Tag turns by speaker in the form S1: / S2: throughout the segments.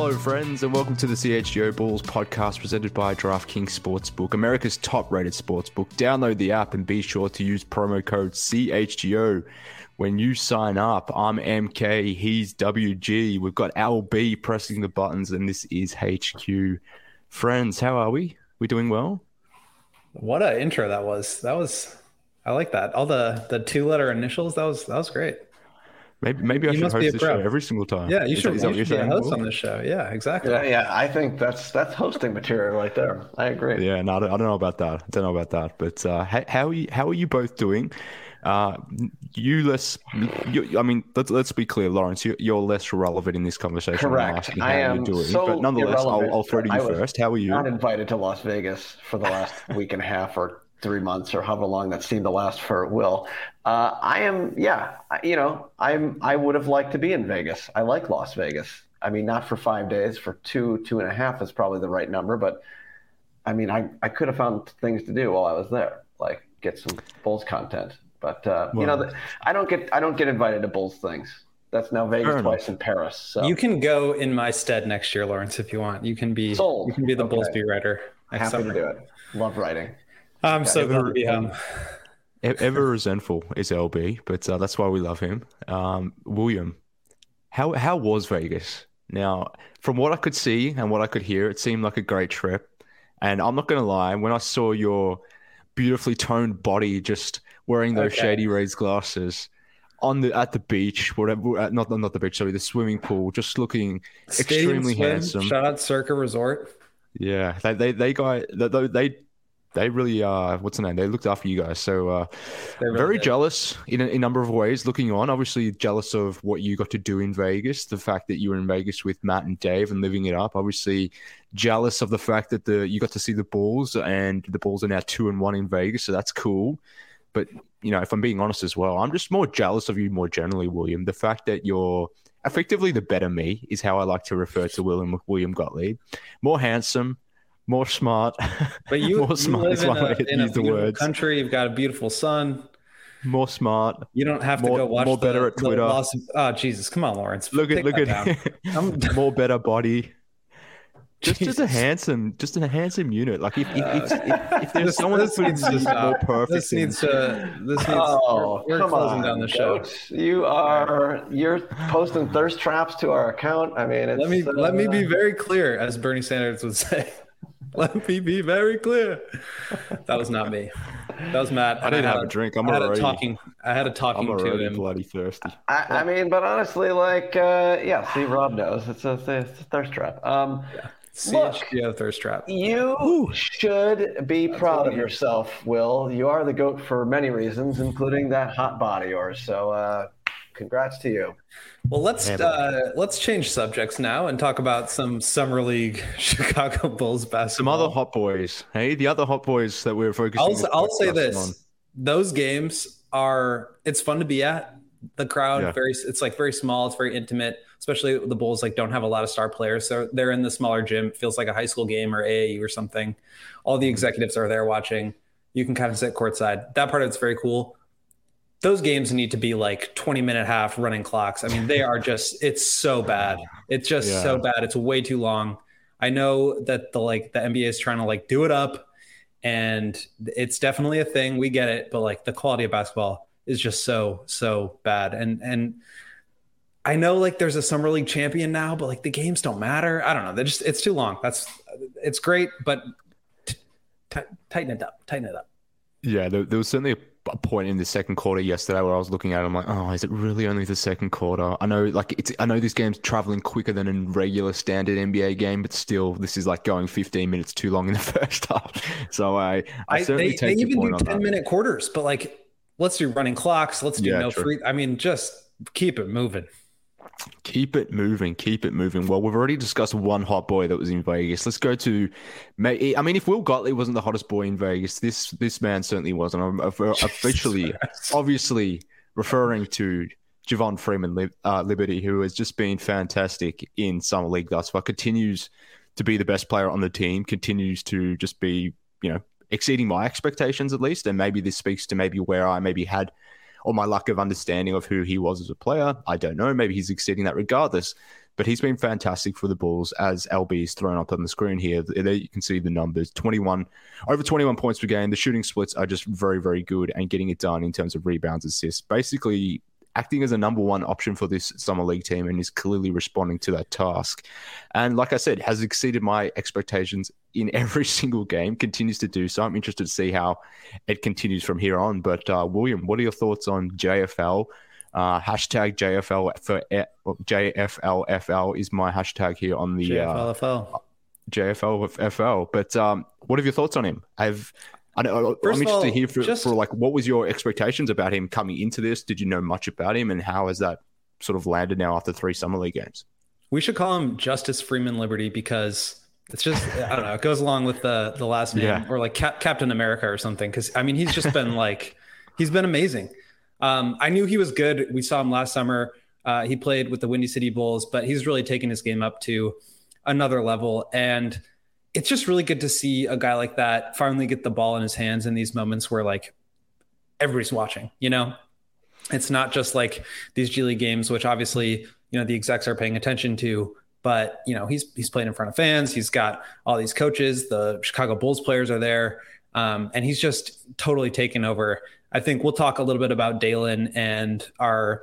S1: Hello, friends, and welcome to the CHGO Bulls podcast presented by DraftKings Sportsbook, America's top-rated sportsbook. Download the app and be sure to use promo code CHGO when you sign up. I'm MK, he's WG. We've got LB pressing the buttons, and this is HQ. Friends, how are we? We doing well?
S2: What an intro that was. I like that. All the two-letter initials, that was great.
S1: Maybe I should host this show every single time.
S2: Yeah, you should be a host
S1: Will?
S2: On this show. Yeah, exactly.
S3: Yeah, I think that's hosting material right there. I agree.
S1: Yeah, no, I don't know about that. But how are you both doing? Let's be clear, Lawrence. You're less relevant in this conversation.
S3: Correct.
S1: How you're doing.
S3: So
S1: but nonetheless, I'll throw to you first. How are you?
S3: Not invited to Las Vegas for the last week and a half or 3 months or however long that seemed to last for Will. I would have liked to be in Vegas. I like Las Vegas. I mean, not for 5 days, for 2.5 is probably the right number. But I mean, I could have found things to do while I was there, like get some Bulls content. But I don't get invited to Bulls things. That's now Vegas twice in Paris. So
S2: you can go in my stead next year, Lawrence, if you want. You can be
S3: sold.
S2: You can be the Bulls beat writer.
S3: Happy to do it. Love writing.
S2: I'm so glad to be home.
S1: Ever resentful is LB, but that's why we love him. William, how was Vegas? Now, from what I could see and what I could hear, it seemed like a great trip. And I'm not going to lie, when I saw your beautifully toned body just wearing those shady raised glasses at the beach, whatever, not the beach, sorry, the swimming pool, just looking extremely handsome.
S2: Shout out Circa Resort.
S1: Yeah, they really what's the name? They looked after you guys. So very jealous in a number of ways looking on. Obviously jealous of what you got to do in Vegas, the fact that you were in Vegas with Matt and Dave and living it up. Obviously jealous of the fact that you got to see the Bulls, and the Bulls are now 2-1 in Vegas, so that's cool. But if I'm being honest as well, I'm just more jealous of you more generally, William. The fact that you're effectively the better me is how I like to refer to William Gottlieb. More handsome, more smart.
S2: But you live in a beautiful country. You've got a beautiful son.
S1: More smart.
S2: You don't have to go watch
S1: more better at Twitter.
S2: Oh, Jesus. Come on, Lawrence.
S1: Look at more better body. Just a handsome unit. Like if there's someone that needs more perfect.
S2: This needs we're closing down the show.
S3: You're posting thirst traps to our account. I mean,
S2: let me be very clear, as Bernie Sanders would say. Let me be very clear. That was not me. That was Matt.
S1: I didn't have a drink. I had a talking
S3: to
S1: him. Bloody thirsty.
S3: I mean, but honestly, see, Rob knows it's a thirst trap.
S2: CHGO thirst trap.
S3: You should be proud of yourself, Will. You are the GOAT for many reasons, including that hot body of yours. So, congrats to you.
S2: Well, let's change subjects now and talk about some Summer League Chicago Bulls basketball.
S1: Some other hot boys. Hey, the other hot boys that we're focusing.
S2: I'll say this: on. Those games it's fun to be at. The crowd it's like very small. It's very intimate. Especially the Bulls don't have a lot of star players, so they're in the smaller gym. It feels like a high school game or AAU or something. All the executives are there watching. You can kind of sit courtside. That part of it's very cool. Those games need to be 20-minute half running clocks. I mean, they are it's so bad. It's just so bad. It's way too long. I know that the NBA is trying to do it up, and it's definitely a thing. We get it, but the quality of basketball is just so bad. And I know there's a Summer League champion now, but the games don't matter. I don't know. It's too long. It's great, but tighten it up.
S1: Yeah, there was certainly a point in the second quarter yesterday where I was looking at it, I'm like, oh, is it really only the second quarter? I know this game's traveling quicker than a regular standard NBA game, but still this is going 15 minutes too long in the first half. So I certainly take your point on that. They even do 10-minute
S2: quarters, but let's do running clocks. Let's do free. I mean, just keep it moving.
S1: Keep it moving. Well, we've already discussed one hot boy that was in Vegas. Let's go to, if Will Gottlieb wasn't the hottest boy in Vegas, this man certainly wasn't. I'm officially, obviously referring to Javon Freeman Liberty, who has just been fantastic in Summer League thus far, continues to be the best player on the team, continues to just be, exceeding my expectations at least. And maybe this speaks to maybe where I maybe had or my lack of understanding of who he was as a player. I don't know. Maybe he's exceeding that regardless. But he's been fantastic for the Bulls, as LB is thrown up on the screen here. There you can see the numbers, over 21 points per game. The shooting splits are just very, very good, and getting it done in terms of rebounds, assists. Basically, acting as a number one option for this Summer League team, and is clearly responding to that task. And like I said, has exceeded my expectations in every single game, continues to do so. I'm interested to see how it continues from here on. But William, what are your thoughts on JFL? Hashtag JFL for JFLFL is my hashtag here on the JFLFL. But what are your thoughts on him? I'm interested to hear for like, what was your expectations about him coming into this? Did you know much about him, and how has that sort of landed now after 3 Summer League games?
S2: We should call him Justice Freeman Liberty, because it's just, I don't know, it goes along with the last name, or like Captain America or something. Because I mean, he's just been he's been amazing. I knew he was good. We saw him last summer. He played with the Windy City Bulls, but he's really taken his game up to another level. And it's just really good to see a guy like that finally get the ball in his hands in these moments where like everybody's watching, you know. It's not just like these G League games, which obviously, you know, the execs are paying attention to, but you know, he's playing in front of fans. He's got all these coaches, the Chicago Bulls players are there. And he's just totally taken over. I think we'll talk a little bit about Dalen and our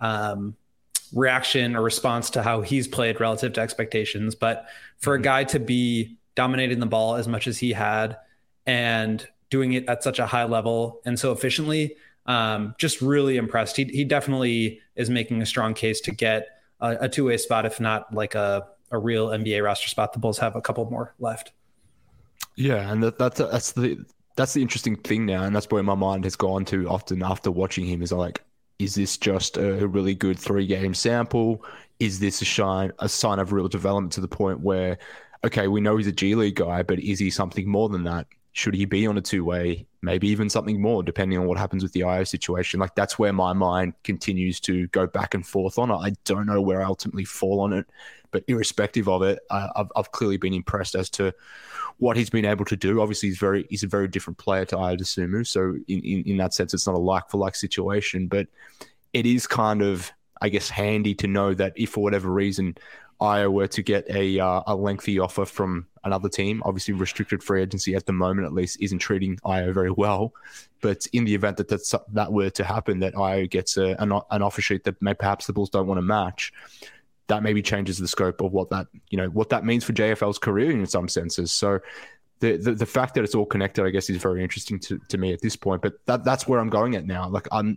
S2: reaction or response to how he's played relative to expectations. But for a guy to be dominating the ball as much as he had and doing it at such a high level and so efficiently, just really impressed. He definitely is making a strong case to get a two-way spot, if not like a real NBA roster spot. The Bulls have a couple more left.
S1: Yeah, and that's the interesting thing now, and that's where my mind has gone to often after watching him, is like, is this just a really good 3-game sample? Is this a sign of real development to the point where, okay, we know he's a G League guy, but is he something more than that? Should he be on a 2-way? Maybe even something more, depending on what happens with the IO situation. Like, that's where my mind continues to go back and forth on it. I don't know where I ultimately fall on it, but irrespective of it, I've clearly been impressed as to what he's been able to do. Obviously, he's a very different player to Ayo Dosunmu, so in that sense, it's not a like-for-like situation, but it is kind of, I guess, handy to know that if for whatever reason Ayo were to get a lengthy offer from another team, obviously restricted free agency at the moment at least isn't treating Ayo very well, but in the event that were to happen, that Ayo gets an offer sheet that perhaps the Bulls don't want to match, that maybe changes the scope of what that means for JFL's career in some senses. So the fact that it's all connected, I guess, is very interesting to me at this point. But that's where I'm going at now. Like, I'm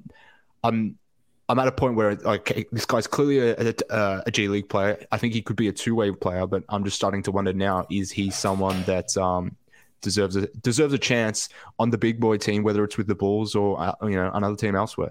S1: at a point where, okay, this guy's clearly a G League player. I think he could be a 2-way player, but I'm just starting to wonder now, is he someone that deserves a chance on the big boy team, whether it's with the Bulls or another team elsewhere?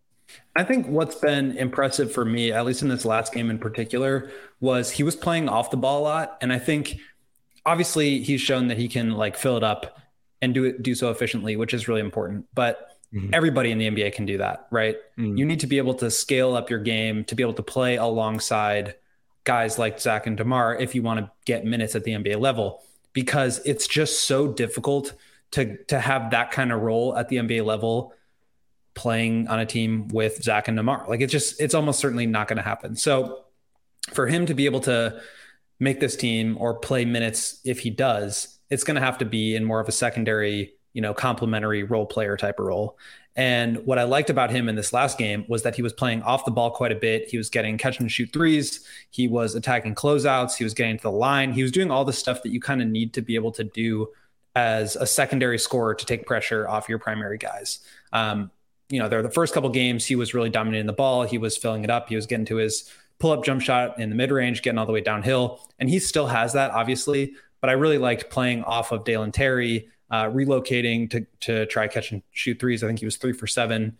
S2: I think what's been impressive for me, at least in this last game in particular, was he was playing off the ball a lot. And I think obviously he's shown that he can like fill it up and do so efficiently, which is really important. But everybody in the NBA can do that, right? You need to be able to scale up your game to be able to play alongside guys like Zach and DeMar if you want to get minutes at the NBA level, because it's just so difficult to have that kind of role at the NBA level playing on a team with Zach and DeMar. Like, it's almost certainly not going to happen. So for him to be able to make this team or play minutes, if he does, it's going to have to be in more of a secondary, complementary role player type of role. And what I liked about him in this last game was that he was playing off the ball quite a bit. He was getting catch and shoot threes. He was attacking closeouts. He was getting to the line. He was doing all the stuff that you kind of need to be able to do as a secondary scorer to take pressure off your primary guys. The first couple games, he was really dominating the ball. He was filling it up. He was getting to his pull-up jump shot in the mid-range, getting all the way downhill. And he still has that, obviously. But I really liked playing off of Dalen Terry, relocating to try catch and shoot threes. I think he was 3 for 7.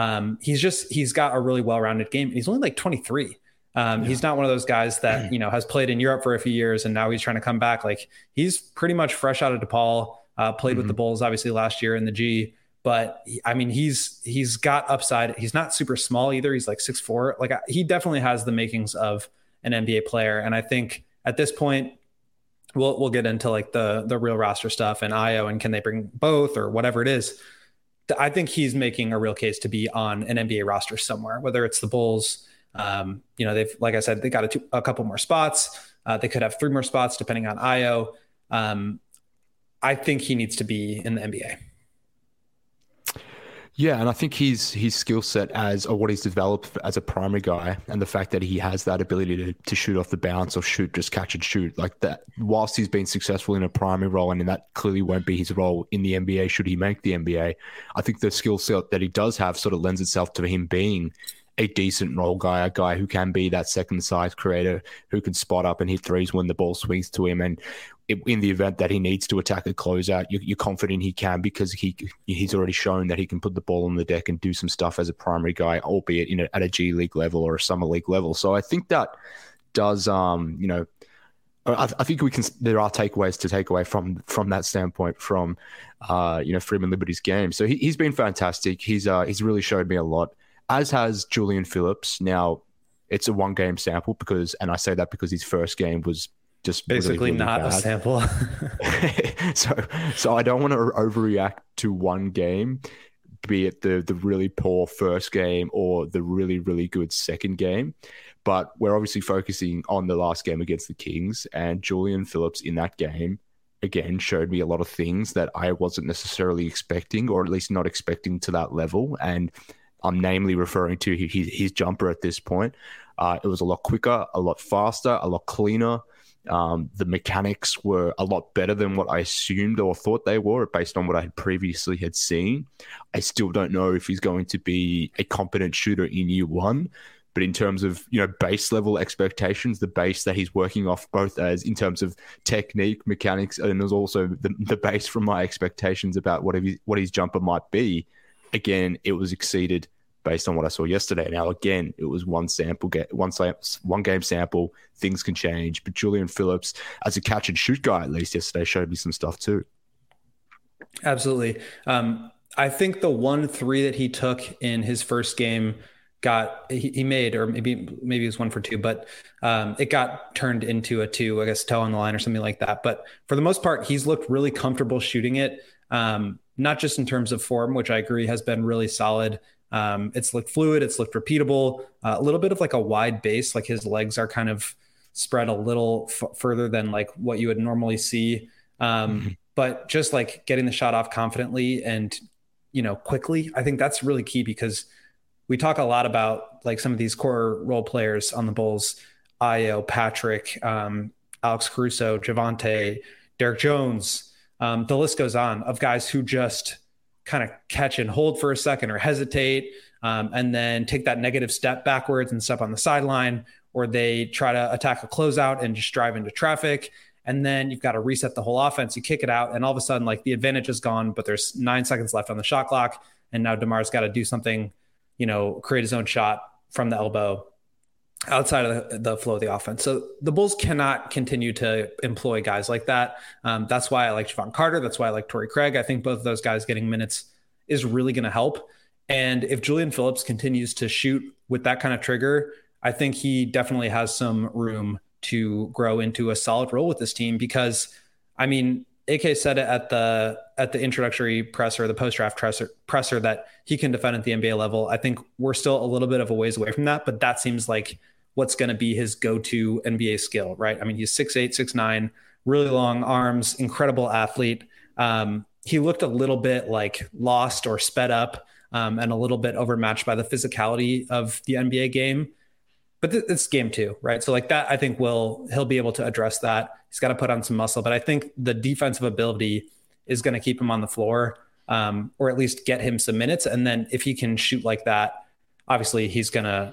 S2: He's got a really well-rounded game. He's only like 23. He's not one of those guys that, has played in Europe for a few years and now he's trying to come back. Like, he's pretty much fresh out of DePaul, played with the Bulls, obviously last year in the G. But I mean, he's got upside. He's not super small either. He's like 6'4". Like, he definitely has the makings of an NBA player. And I think at this point, we'll get into like the real roster stuff and Ayo and can they bring both or whatever it is. I think he's making a real case to be on an NBA roster somewhere, whether it's the Bulls. They've, like I said, they got a couple more spots. They could have 3 more spots depending on Io. I think he needs to be in the NBA.
S1: Yeah, and I think his skill set or what he's developed as a primary guy, and the fact that he has that ability to shoot off the bounce or just catch and shoot like that, whilst he's been successful in a primary role, and that clearly won't be his role in the NBA should he make the NBA, I think the skill set that he does have sort of lends itself to him being a decent role guy, a guy who can be that second size creator, who can spot up and hit threes when the ball swings to him. And in the event that he needs to attack a closeout, you're confident he can, because he's already shown that he can put the ball on the deck and do some stuff as a primary guy, albeit at a G League level or a summer league level. So I think that does, I think there are takeaways to take away from that standpoint from, Freeman Liberty's game. So he's been fantastic. He's really showed me a lot, as has Julian Phillips. Now, it's a 1-game sample and I say that because his first game was just
S2: basically really not bad. A sample.
S1: so I don't want to overreact to one game, be it the really poor first game or the really, really good second game. But we're obviously focusing on the last game against the Kings, and Julian Phillips in that game, again, showed me a lot of things that I wasn't necessarily expecting, or at least not expecting to that level. And I'm namely referring to his jumper at this point. It was a lot quicker, a lot faster, a lot cleaner. The mechanics were a lot better than what I assumed or thought they were based on what I had previously had seen. I still don't know if he's going to be a competent shooter in year one, but in terms of, base level expectations, the base that he's working off, both as in terms of technique, mechanics, and there's also the base from my expectations about what his jumper might be. Again, it was exceeded based on what I saw yesterday. Now, again, it was one game sample. Things can change. But Julian Phillips, as a catch and shoot guy, at least yesterday, showed me some stuff too.
S2: Absolutely. I think the 1-3 that he took in his first game he made, or maybe it was 1 for 2, but it got turned into a 2, I guess, toe on the line or something like that. But for the most part, he's looked really comfortable shooting it. Not just in terms of form, which I agree has been really solid. It's looked fluid. It's looked repeatable. A little bit of like a wide base, like his legs are kind of spread a little further than like what you would normally see. But just like getting the shot off confidently and, quickly, I think that's really key, because we talk a lot about like some of these core role players on the Bulls, Io, Patrick, Alex Caruso, Javonte, Derek Jones. The list goes on of guys who just kind of catch and hold for a second or hesitate, and then take that negative step backwards and step on the sideline, or they try to attack a closeout and just drive into traffic. And then you've got to reset the whole offense. You kick it out, and all of a sudden, like, the advantage is gone, but there's 9 seconds left on the shot clock. And now DeMar's got to do something, create his own shot from the elbow outside of the flow of the offense. So the Bulls cannot continue to employ guys like that. That's why I like Javon Carter. That's why I like Torrey Craig. I think both of those guys getting minutes is really going to help. And if Julian Phillips continues to shoot with that kind of trigger, I think he definitely has some room to grow into a solid role with this team, because, I mean, AK said it at the introductory presser, the post-draft presser, that he can defend at the NBA level. I think we're still a little bit of a ways away from that, but that seems like what's going to be his go-to NBA skill, right? I mean, he's 6'8", 6'9", really long arms, incredible athlete. He looked a little bit like lost or sped up, and a little bit overmatched by the physicality of the NBA game. But it's game 2, right? So like that, I think he'll be able to address that. He's got to put on some muscle, but I think the defensive ability is going to keep him on the floor, or at least get him some minutes. And then if he can shoot like that, obviously he's going to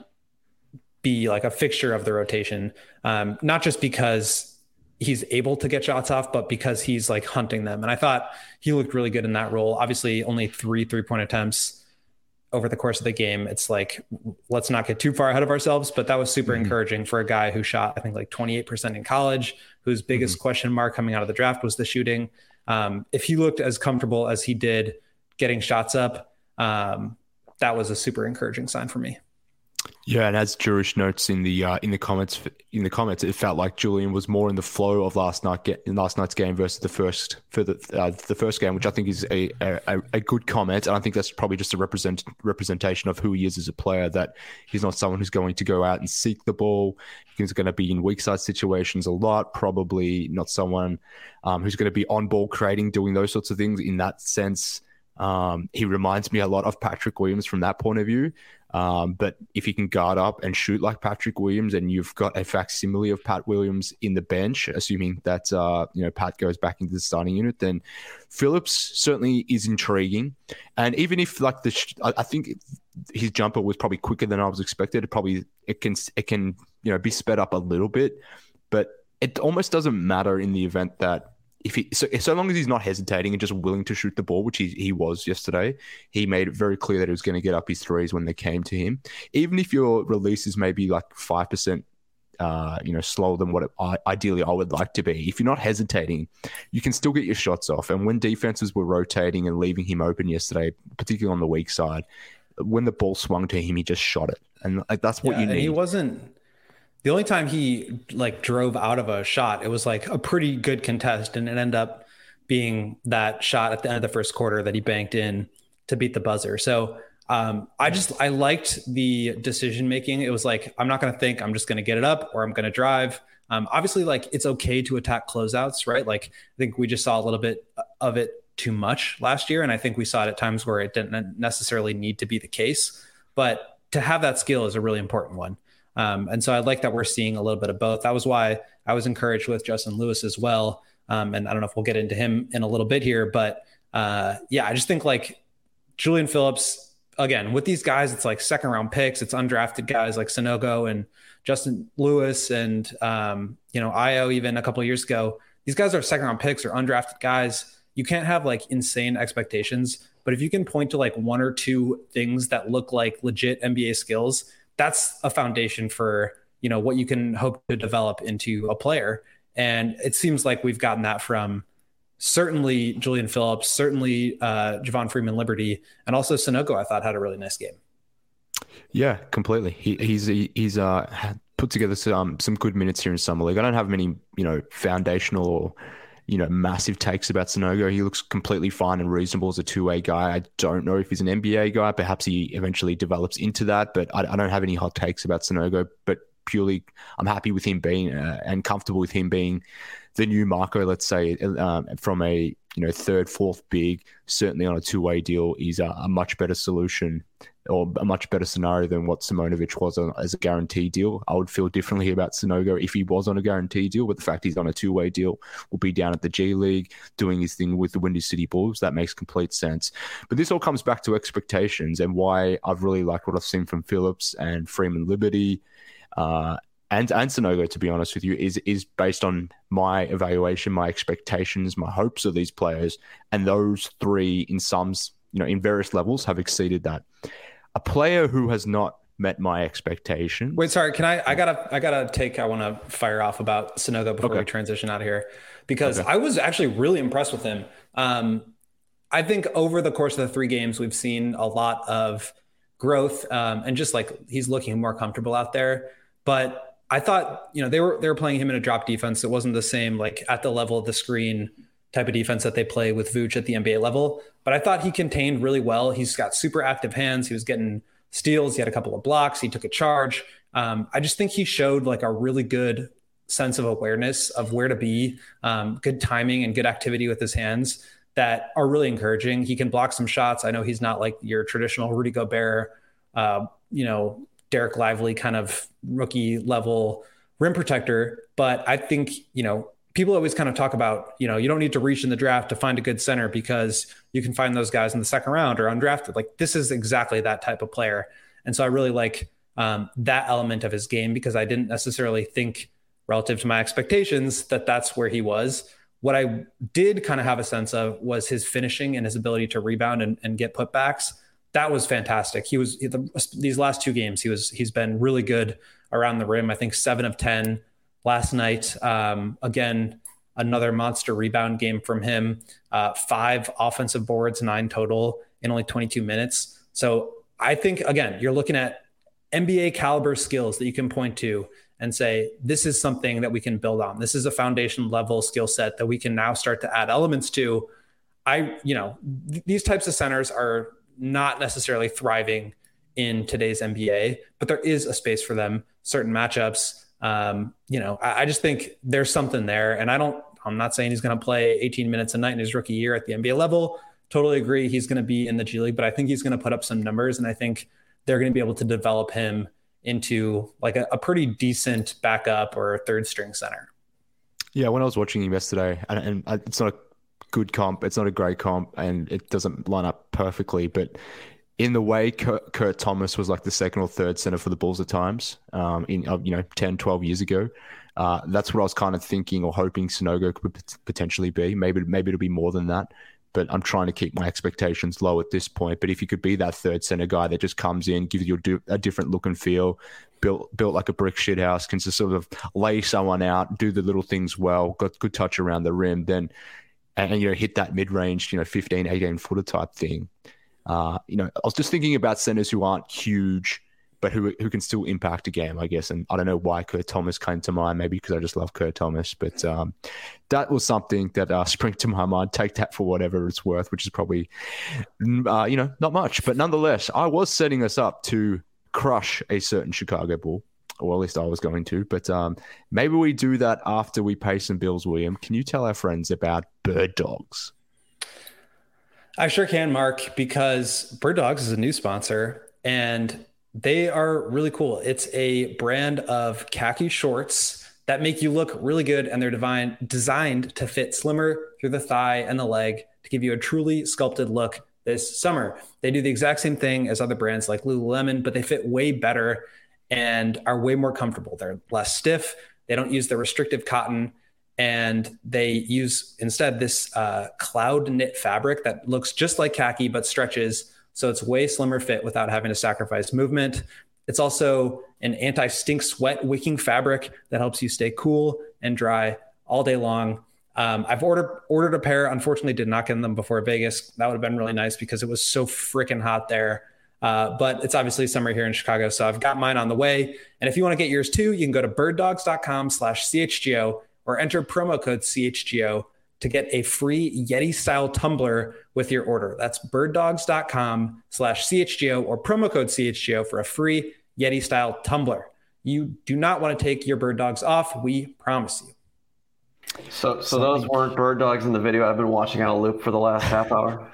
S2: be like a fixture of the rotation, not just because he's able to get shots off, but because he's like hunting them. And I thought he looked really good in that role. Obviously only 3 3-point attempts over the course of the game. It's like, let's not get too far ahead of ourselves, but that was super encouraging for a guy who shot, I think, like 28% in college, whose biggest question mark coming out of the draft was the shooting. If he looked as comfortable as he did getting shots up, that was a super encouraging sign for me.
S1: Yeah, and as Jurish notes in the comments, it felt like Julian was more in the flow of last night's game versus the first game, which I think is a good comment, and I think that's probably just a representation of who he is as a player. That he's not someone who's going to go out and seek the ball. He's going to be in weak side situations a lot. Probably not someone who's going to be on ball creating, doing those sorts of things. In that sense, he reminds me a lot of Patrick Williams from that point of view. But if you can guard up and shoot like Patrick Williams, and you've got a facsimile of Pat Williams in the bench, assuming that Pat goes back into the starting unit, then Phillips certainly is intriguing. And even if I think his jumper was probably quicker than I was expected, it can be sped up a little bit, but it almost doesn't matter in the event that. So long as he's not hesitating and just willing to shoot the ball, which he was yesterday, he made it very clear that he was going to get up his threes when they came to him. Even if your release is maybe like 5%, slower than what ideally I would like to be, if you're not hesitating, you can still get your shots off. And when defenses were rotating and leaving him open yesterday, particularly on the weak side, when the ball swung to him, he just shot it, and that's what you need.
S2: He wasn't. The only time he drove out of a shot, it was like a pretty good contest, and it ended up being that shot at the end of the first quarter that he banked in to beat the buzzer. So I liked the decision making. It was like, I'm not going to think, I'm just going to get it up or I'm going to drive. Obviously, it's okay to attack closeouts, right? I think we just saw a little bit of it too much last year, and I think we saw it at times where it didn't necessarily need to be the case. But to have that skill is a really important one. And so I like that we're seeing a little bit of both. That was why I was encouraged with Justin Lewis as well. And I don't know if we'll get into him in a little bit here, but I just think Julian Phillips, again, with these guys, it's like second round picks. It's undrafted guys like Sanogo and Justin Lewis and, Io even a couple of years ago. These guys are second round picks or undrafted guys. You can't have insane expectations, but if you can point to one or two things that look like legit NBA skills, that's a foundation for, what you can hope to develop into a player. And it seems like we've gotten that from certainly Julian Phillips, certainly Javon Freeman Liberty, and also Sanogo, I thought had a really nice game.
S1: Yeah, completely. He's put together some good minutes here in Summer League. I don't have many, foundational or, massive takes about Sanogo. He looks completely fine and reasonable as a two-way guy. I don't know if he's an NBA guy. Perhaps he eventually develops into that, but I don't have any hot takes about Sanogo. But purely, I'm happy with him being and comfortable with him being the new Marco, let's say, from a third, fourth big, certainly on a two-way deal, is a much better solution or a much better scenario than what Simonovic was as a guarantee deal. I would feel differently about Sanogo if he was on a guarantee deal, but the fact he's on a two-way deal, will be down at the G League doing his thing with the Windy City Bulls. That makes complete sense. But this all comes back to expectations and why I've really liked what I've seen from Phillips and Freeman Liberty and Sanogo, to be honest with you, is based on my evaluation, my expectations, my hopes of these players, and those three in sums, in various levels have exceeded that. A player who has not met my expectation.
S2: Wait, sorry. Can I got a take I want to fire off about Sanogo before we transition out of here, because I was actually really impressed with him. I think over the course of the 3 games, we've seen a lot of growth and just he's looking more comfortable out there. But I thought, they were playing him in a drop defense. It wasn't the same, at the level of the screen type of defense that they play with Vooch at the NBA level. But I thought he contained really well. He's got super active hands. He was getting steals. He had a couple of blocks. He took a charge. I just think he showed a really good sense of awareness of where to be, good timing and good activity with his hands that are really encouraging. He can block some shots. I know he's not your traditional Rudy Gobert, Derek Lively kind of rookie level rim protector. But I think, people always kind of talk about, you don't need to reach in the draft to find a good center because you can find those guys in the second round or undrafted. This is exactly that type of player. And so I really like that element of his game, because I didn't necessarily think relative to my expectations that that's where he was. What I did kind of have a sense of was his finishing and his ability to rebound and get putbacks. That was fantastic. These last 2 games, he's been really good around the rim. I think 7 of 10 last night. Again, another monster rebound game from him. 5 offensive boards, 9 total in only 22 minutes. So I think, again, you're looking at NBA caliber skills that you can point to and say, this is something that we can build on. This is a foundation level skill set that we can now start to add elements to. These types of centers are not necessarily thriving in today's NBA, but there is a space for them, certain matchups. I just think there's something there. And I'm not saying he's going to play 18 minutes a night in his rookie year at the NBA level. Totally agree. He's going to be in the G League, but I think he's going to put up some numbers, and I think they're going to be able to develop him into like a pretty decent backup or third string center. Yeah.
S1: When I was watching him yesterday, and it's not a good comp, it's not a great comp, and it doesn't line up perfectly, but in the way Kurt Thomas was like the second or third center for the Bulls at times, 10, 12 years ago, that's what I was kind of thinking or hoping Sanogo could potentially be. Maybe it'll be more than that, but I'm trying to keep my expectations low at this point. But if you could be that third center guy that just comes in, gives you a different look and feel, built like a brick shit house, can just sort of lay someone out, do the little things well, got good touch around the rim, then and hit that mid-range, 15, 18 footer type thing. I was just thinking about centers who aren't huge, but who can still impact a game, I guess. And I don't know why Kurt Thomas came to mind, maybe because I just love Kurt Thomas. But that was something that sprang to my mind. Take that for whatever it's worth, which is probably, not much. But nonetheless, I was setting us up to crush a certain Chicago Bull, or at least I was going to. But maybe we do that after we pay some bills, William. Can you tell our friends about Bird Dogs?
S2: I sure can, Mark, because Bird Dogs is a new sponsor, and they are really cool. It's a brand of khaki shorts that make you look really good, and they're designed to fit slimmer through the thigh and the leg to give you a truly sculpted look this summer. They do the exact same thing as other brands like Lululemon, but they fit way better and are way more comfortable. They're less stiff. They don't use the restrictive cotton, and they use instead this cloud knit fabric that looks just like khaki but stretches, so it's way slimmer fit without having to sacrifice movement. It's also an anti-stink sweat wicking fabric that helps you stay cool and dry all day long. I've ordered a pair. Unfortunately, did not get them before Vegas. That would have been really nice because it was so freaking hot there. But it's obviously summer here in Chicago, so I've got mine on the way. And if you want to get yours too, you can go to birddogs.com/CHGO or enter promo code CHGO to get a free Yeti-style tumbler with your order. That's birddogs.com/CHGO or promo code CHGO for a free Yeti-style tumbler. You do not want to take your Bird Dogs off. We promise you.
S3: So those weren't Bird Dogs in the video I've been watching on a loop for the last half hour.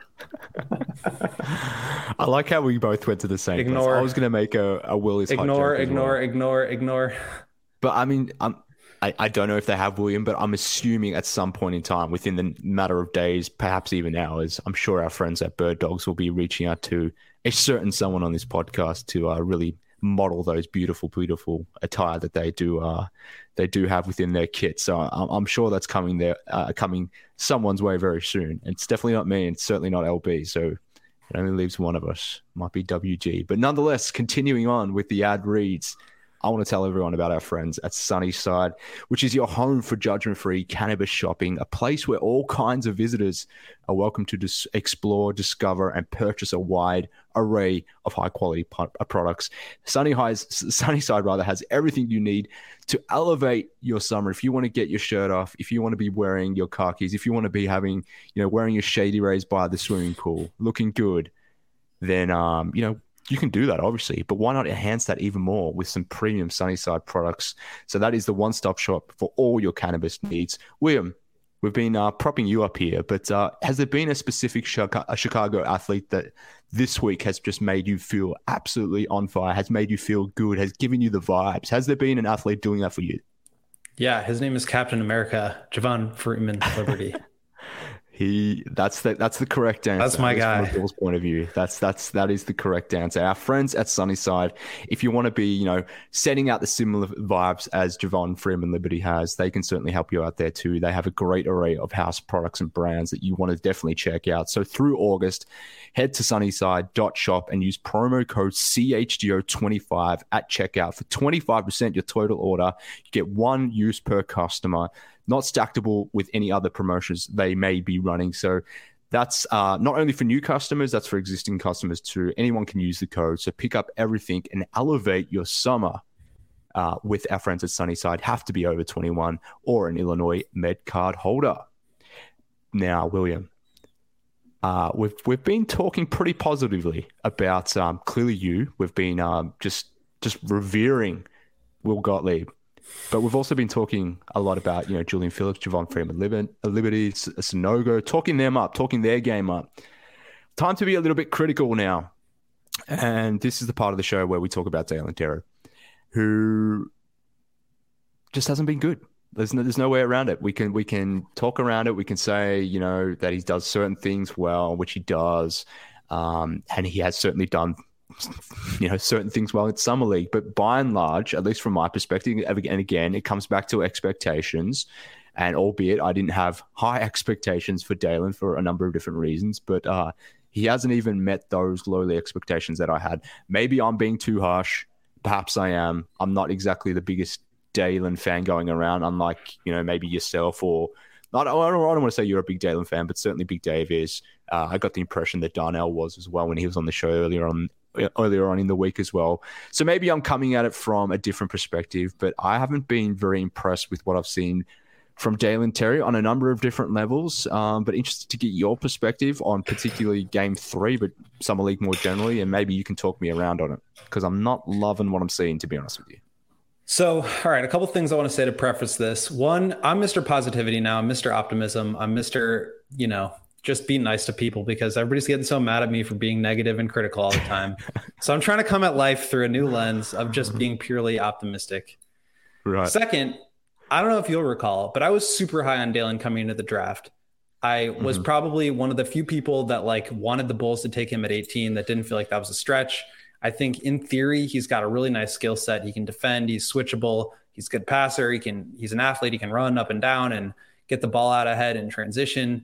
S1: I like how we both went to the same place. I was going to make a Willie's
S2: ignore.
S1: But I mean, I don't know if they have, William, but I'm assuming at some point in time, within the matter of days, perhaps even hours, I'm sure our friends at Bird Dogs will be reaching out to a certain someone on this podcast to really model those beautiful, beautiful attire that they do have within their kit. So I'm sure that's coming someone's way very soon. And it's definitely not me, and it's certainly not LB. So it only leaves one of us. Might be WG. But nonetheless, continuing on with the ad reads, I want to tell everyone about our friends at Sunnyside, which is your home for judgment-free cannabis shopping, a place where all kinds of visitors are welcome to explore, discover, and purchase a wide array of high-quality products. Sunnyside has everything you need to elevate your summer. If you want to get your shirt off, if you want to be wearing your khakis, if you want to be wearing your Shady Rays by the swimming pool, looking good, then you can do that, obviously, but why not enhance that even more with some premium Sunnyside products? So that is the one-stop shop for all your cannabis needs. William, we've been propping you up here, but has there been a specific Chicago athlete that this week has just made you feel absolutely on fire, has made you feel good, has given you the vibes? Has there been an athlete doing that for you?
S2: Yeah, his name is Captain America, Javon Freeman Liberty.
S1: That's the correct answer.
S2: That's my guy.
S1: From Bill's point of view, that is the correct answer. Our friends at Sunnyside, if you want to be, setting out the similar vibes as Javon Freeman Liberty has, they can certainly help you out there too. They have a great array of house products and brands that you want to definitely check out. So through August, head to sunnyside.shop and use promo code CHGO25 at checkout for 25% your total order. You get one use per customer, not stackable with any other promotions they may be running. So That's not only for new customers, that's for existing customers too. Anyone can use the code. So pick up everything and elevate your summer with our friends at Sunnyside. Have to be over 21 or an Illinois Med card holder. Now, William, we've been talking pretty positively about clearly you. We've been just revering Will Gottlieb. But we've also been talking a lot about, Julian Phillips, Javon Freeman, Liberty, Sanogo, talking them up, talking their game up. Time to be a little bit critical now. And this is the part of the show where we talk about Dalen Terry, who just hasn't been good. There's no way around it. We can talk around it. We can say, that he does certain things well, which he does. And he has certainly done certain things well in Summer League, but by and large, at least from my perspective, and again, it comes back to expectations. And albeit I didn't have high expectations for Dalen for a number of different reasons, but he hasn't even met those lowly expectations that I had. Maybe I'm being too harsh. Perhaps I am. I'm not exactly the biggest Dalen fan going around, unlike maybe yourself or. I don't want to say you're a big Dalen fan, but certainly Big Dave is. I got the impression that Darnell was as well when he was on the show earlier on in the week as well. So maybe I'm coming at it from a different perspective, but I haven't been very impressed with what I've seen from Dalen Terry on a number of different levels. But interested to get your perspective on particularly Game 3, but Summer League more generally, and maybe you can talk me around on it because I'm not loving what I'm seeing, to be honest with you.
S2: So, all right, a couple of things I want to say to preface this. One, I'm Mr. Positivity now. I'm Mr. Optimism. I'm Mr. Just be nice to people because everybody's getting so mad at me for being negative and critical all the time. So I'm trying to come at life through a new lens of just being purely optimistic.
S1: Right.
S2: Second, I don't know if you'll recall, but I was super high on Dalen coming into the draft. I was probably one of the few people that wanted the Bulls to take him at 18 that didn't feel like that was a stretch. I think in theory, he's got a really nice skill set. He can defend. He's switchable. He's a good passer. He's an athlete. He can run up and down and get the ball out ahead in transition.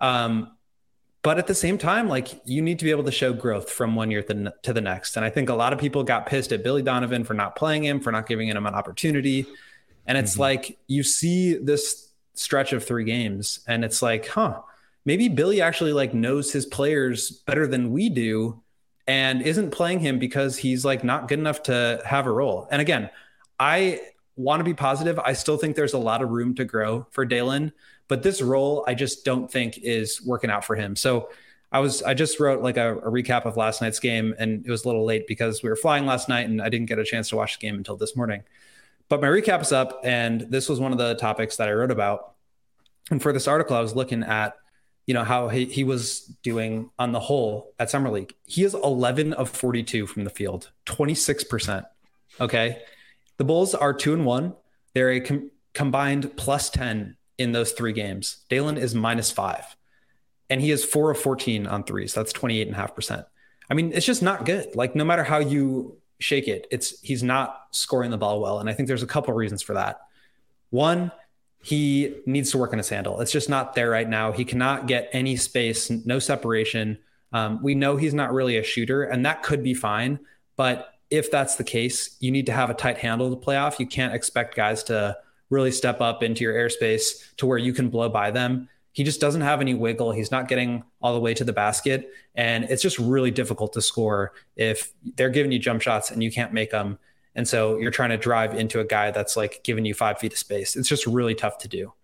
S2: But at the same time, you need to be able to show growth from one year to the next. And I think a lot of people got pissed at Billy Donovan for not playing him, for not giving him an opportunity. And it's you see this stretch of 3 games and it's maybe Billy actually knows his players better than we do and isn't playing him because he's not good enough to have a role. And again, I want to be positive. I still think there's a lot of room to grow for Dalen, but this role I just don't think is working out for him. So I just wrote a recap of last night's game, and it was a little late because we were flying last night and I didn't get a chance to watch the game until this morning. But my recap is up, and this was one of the topics that I wrote about. And for this article, I was looking at how he was doing on the whole at Summer League. He is 11 of 42 from the field, 26%. Okay. The Bulls are 2-1. They're a combined plus 10 in those 3 games. Dalen is -5 and he is 4 of 14 on threes. That's 28.5%. I mean, it's just not good. No matter how you shake it, he's not scoring the ball well. And I think there's a couple of reasons for that. One, he needs to work on his handle. It's just not there right now. He cannot get any space, no separation. We know he's not really a shooter, and that could be fine. But if that's the case, you need to have a tight handle to play off. You can't expect guys to really step up into your airspace to where you can blow by them. He just doesn't have any wiggle. He's not getting all the way to the basket. And it's just really difficult to score if they're giving you jump shots and you can't make them. And so you're trying to drive into a guy that's giving you 5 feet of space. It's just really tough to do.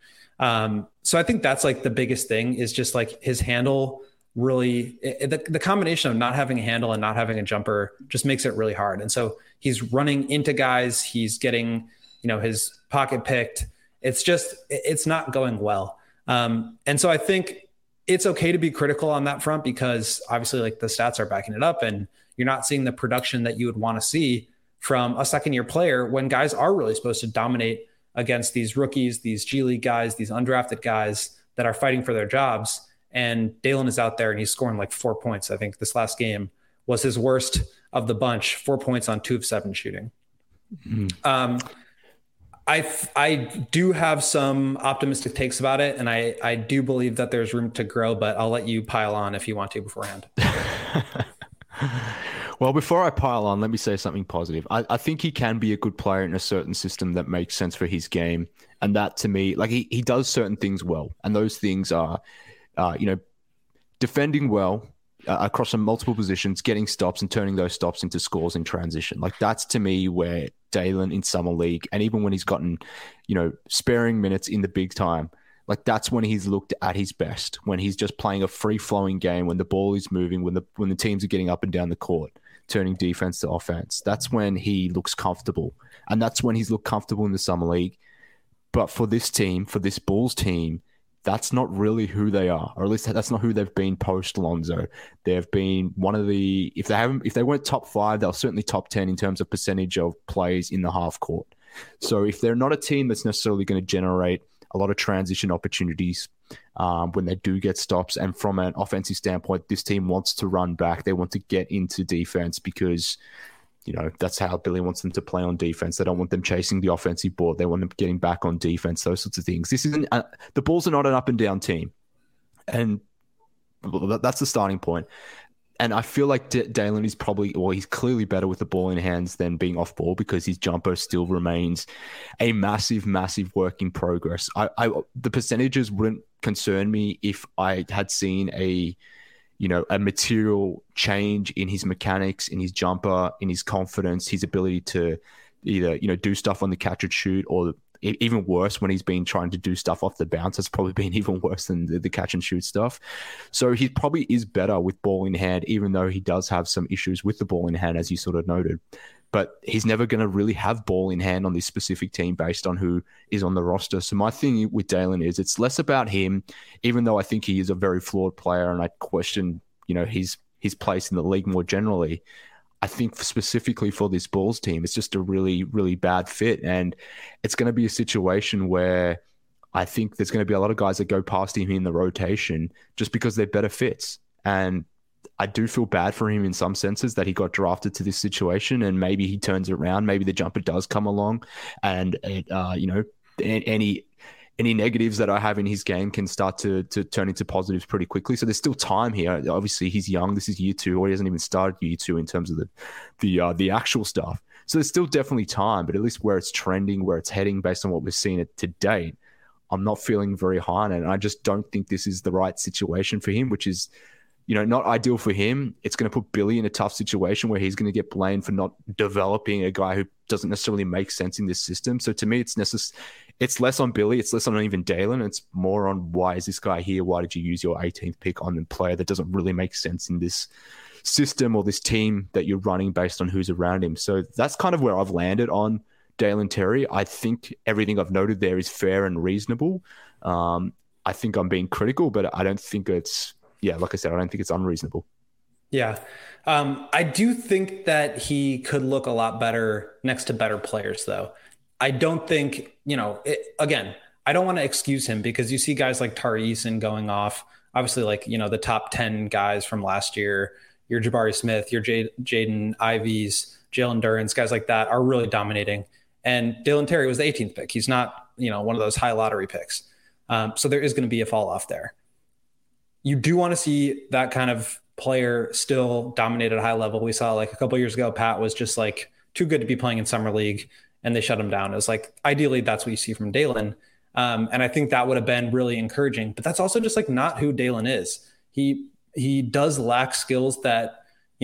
S2: So I think that's the biggest thing is just his handle really, the combination of not having a handle and not having a jumper just makes it really hard. And so he's running into guys. He's getting, his pocket picked. It's not going well. And so I think it's okay to be critical on that front because obviously the stats are backing it up and you're not seeing the production that you would want to see from a second-year player when guys are really supposed to dominate against these rookies, these G League guys, these undrafted guys that are fighting for their jobs. And Dalen is out there and he's scoring 4 points. I think this last game was his worst of the bunch, 4 points on 2 of 7 shooting. I do have some optimistic takes about it, and I do believe that there's room to grow, but I'll let you pile on if you want to beforehand.
S1: Well, before I pile on, let me say something positive. I think he can be a good player in a certain system that makes sense for his game. And that to me, he does certain things well. And those things are, defending well across some multiple positions, getting stops and turning those stops into scores in transition. Like that's to me where Dalen in summer league, and even when he's gotten, sparing minutes in the big time, like that's when he's looked at his best, when he's just playing a free-flowing game, when the ball is moving, when the teams are getting up and down the court, turning defense to offense. That's when he looks comfortable. And that's when he's looked comfortable in the summer league. But for this team, for this Bulls team, that's not really who they are, or at least that's not who they've been post Lonzo. They've been one of the, if they weren't top 5, they're certainly top 10 in terms of percentage of plays in the half court. So if they're not a team that's necessarily going to generate a lot of transition opportunities when they do get stops, and from an offensive standpoint, this team wants to run back. They want to get into defense because that's how Billy wants them to play on defense. They don't want them chasing the offensive board. They want them getting back on defense, those sorts of things. This isn't the Bulls are not an up and down team. And that's the starting point. And I feel like Dalen is he's clearly better with the ball in hands than being off ball, because his jumper still remains a massive, massive work in progress. The percentages wouldn't concern me if I had seen a material change in his mechanics, in his jumper, in his confidence, his ability to either, do stuff on the catch and shoot, or even worse, when he's been trying to do stuff off the bounce, it's probably been even worse than the catch and shoot stuff. So he probably is better with ball in hand, even though he does have some issues with the ball in hand, as you sort of noted. But he's never going to really have ball in hand on this specific team based on who is on the roster. So my thing with Dalen is it's less about him, even though I think he is a very flawed player and I question, his place in the league more generally. I think specifically for this Bulls team, it's just a really, really bad fit. And it's going to be a situation where I think there's going to be a lot of guys that go past him in the rotation just because they're better fits. And I do feel bad for him in some senses that he got drafted to this situation, and maybe he turns it around. Maybe the jumper does come along, and it, any negatives that I have in his game can start to turn into positives pretty quickly. So there's still time here. Obviously, he's young. This is year 2, or he hasn't even started year 2 in terms of the actual stuff. So there's still definitely time, but at least where it's trending, where it's heading based on what we've seen to date, I'm not feeling very high on it. And I just don't think this is the right situation for him, which is, not ideal for him. It's going to put Billy in a tough situation where he's going to get blamed for not developing a guy who doesn't necessarily make sense in this system. So to me, it's less on Billy. It's less on even Dalen. It's more on, why is this guy here? Why did you use your 18th pick on a player that doesn't really make sense in this system or this team that you're running based on who's around him? So that's kind of where I've landed on Dalen Terry. I think everything I've noted there is fair and reasonable. I think I'm being critical, but I don't think it's, like I said, I don't think it's unreasonable. Yeah.
S2: I do think that he could look a lot better next to better players, though. I don't think, again, I don't want to excuse him, because you see guys like Tari Eason going off, obviously, like, the top 10 guys from last year, your Jabari Smith, your Jaden Ivies, Jalen Durrance, guys like that are really dominating. And Dalen Terry was the 18th pick. He's not, one of those high lottery picks. So there is going to be a fall off there. You do want to see that kind of player still dominate at a high level. We saw like a couple of years ago, Pat was just like too good to be playing in summer league, and they shut him down. It was like, ideally, that's what you see from Dalen. And I think that would have been really encouraging, but that's also just like not who Dalen is. He does lack skills that,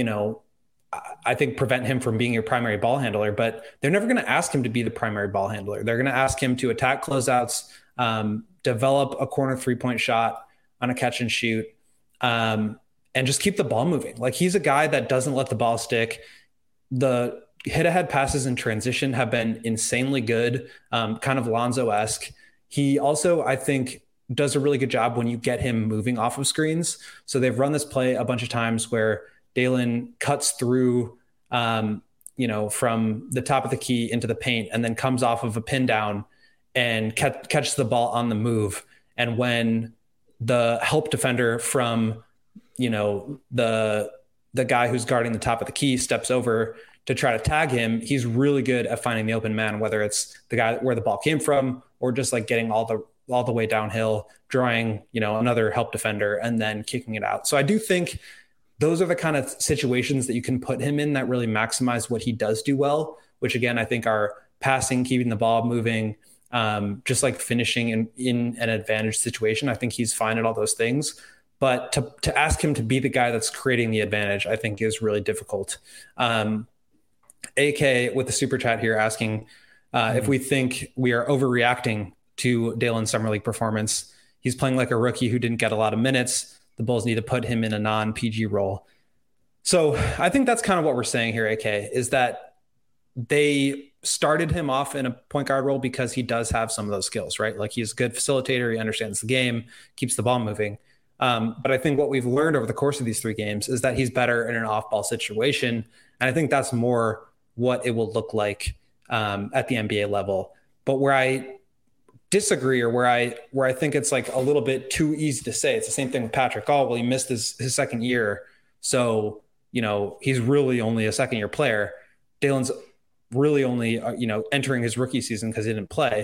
S2: I think prevent him from being your primary ball handler, but they're never going to ask him to be the primary ball handler. They're going to ask him to attack closeouts, develop a corner 3-point shot on a catch and shoot, and just keep the ball moving. Like, he's a guy that doesn't let the ball stick. The hit-ahead passes in transition have been insanely good, kind of Lonzo-esque. He also, I think, does a really good job when you get him moving off of screens. So they've run this play a bunch of times where Dalen cuts through, from the top of the key into the paint, and then comes off of a pin down and catches the ball on the move. And when the help defender from, the guy who's guarding the top of the key steps over to try to tag him, he's really good at finding the open man, whether it's the guy where the ball came from, or just like getting all the way downhill, drawing, another help defender and then kicking it out. So I do think those are the kind of situations that you can put him in that really maximize what he does do well, which again, I think are passing, keeping the ball moving, just like finishing in an advantage situation. I think he's fine at all those things. But to ask him to be the guy that's creating the advantage, I think is really difficult. AK with the super chat here asking if we think we are overreacting to Daylon's summer league performance. He's playing like a rookie who didn't get a lot of minutes. The Bulls need to put him in a non-PG role. So I think that's kind of what we're saying here, AK, is that they started him off in a point guard role because he does have some of those skills, right? Like he's a good facilitator. He understands the game, keeps the ball moving. But I think what we've learned over the course of these 3 games is that he's better in an off-ball situation. And I think that's more what it will look like at the NBA level. But where I disagree, or where I think it's like a little bit too easy to say, it's the same thing with Patrick. Oh, well, he missed his second year. So, he's really only a second year player. Daylon's really only, entering his rookie season because he didn't play.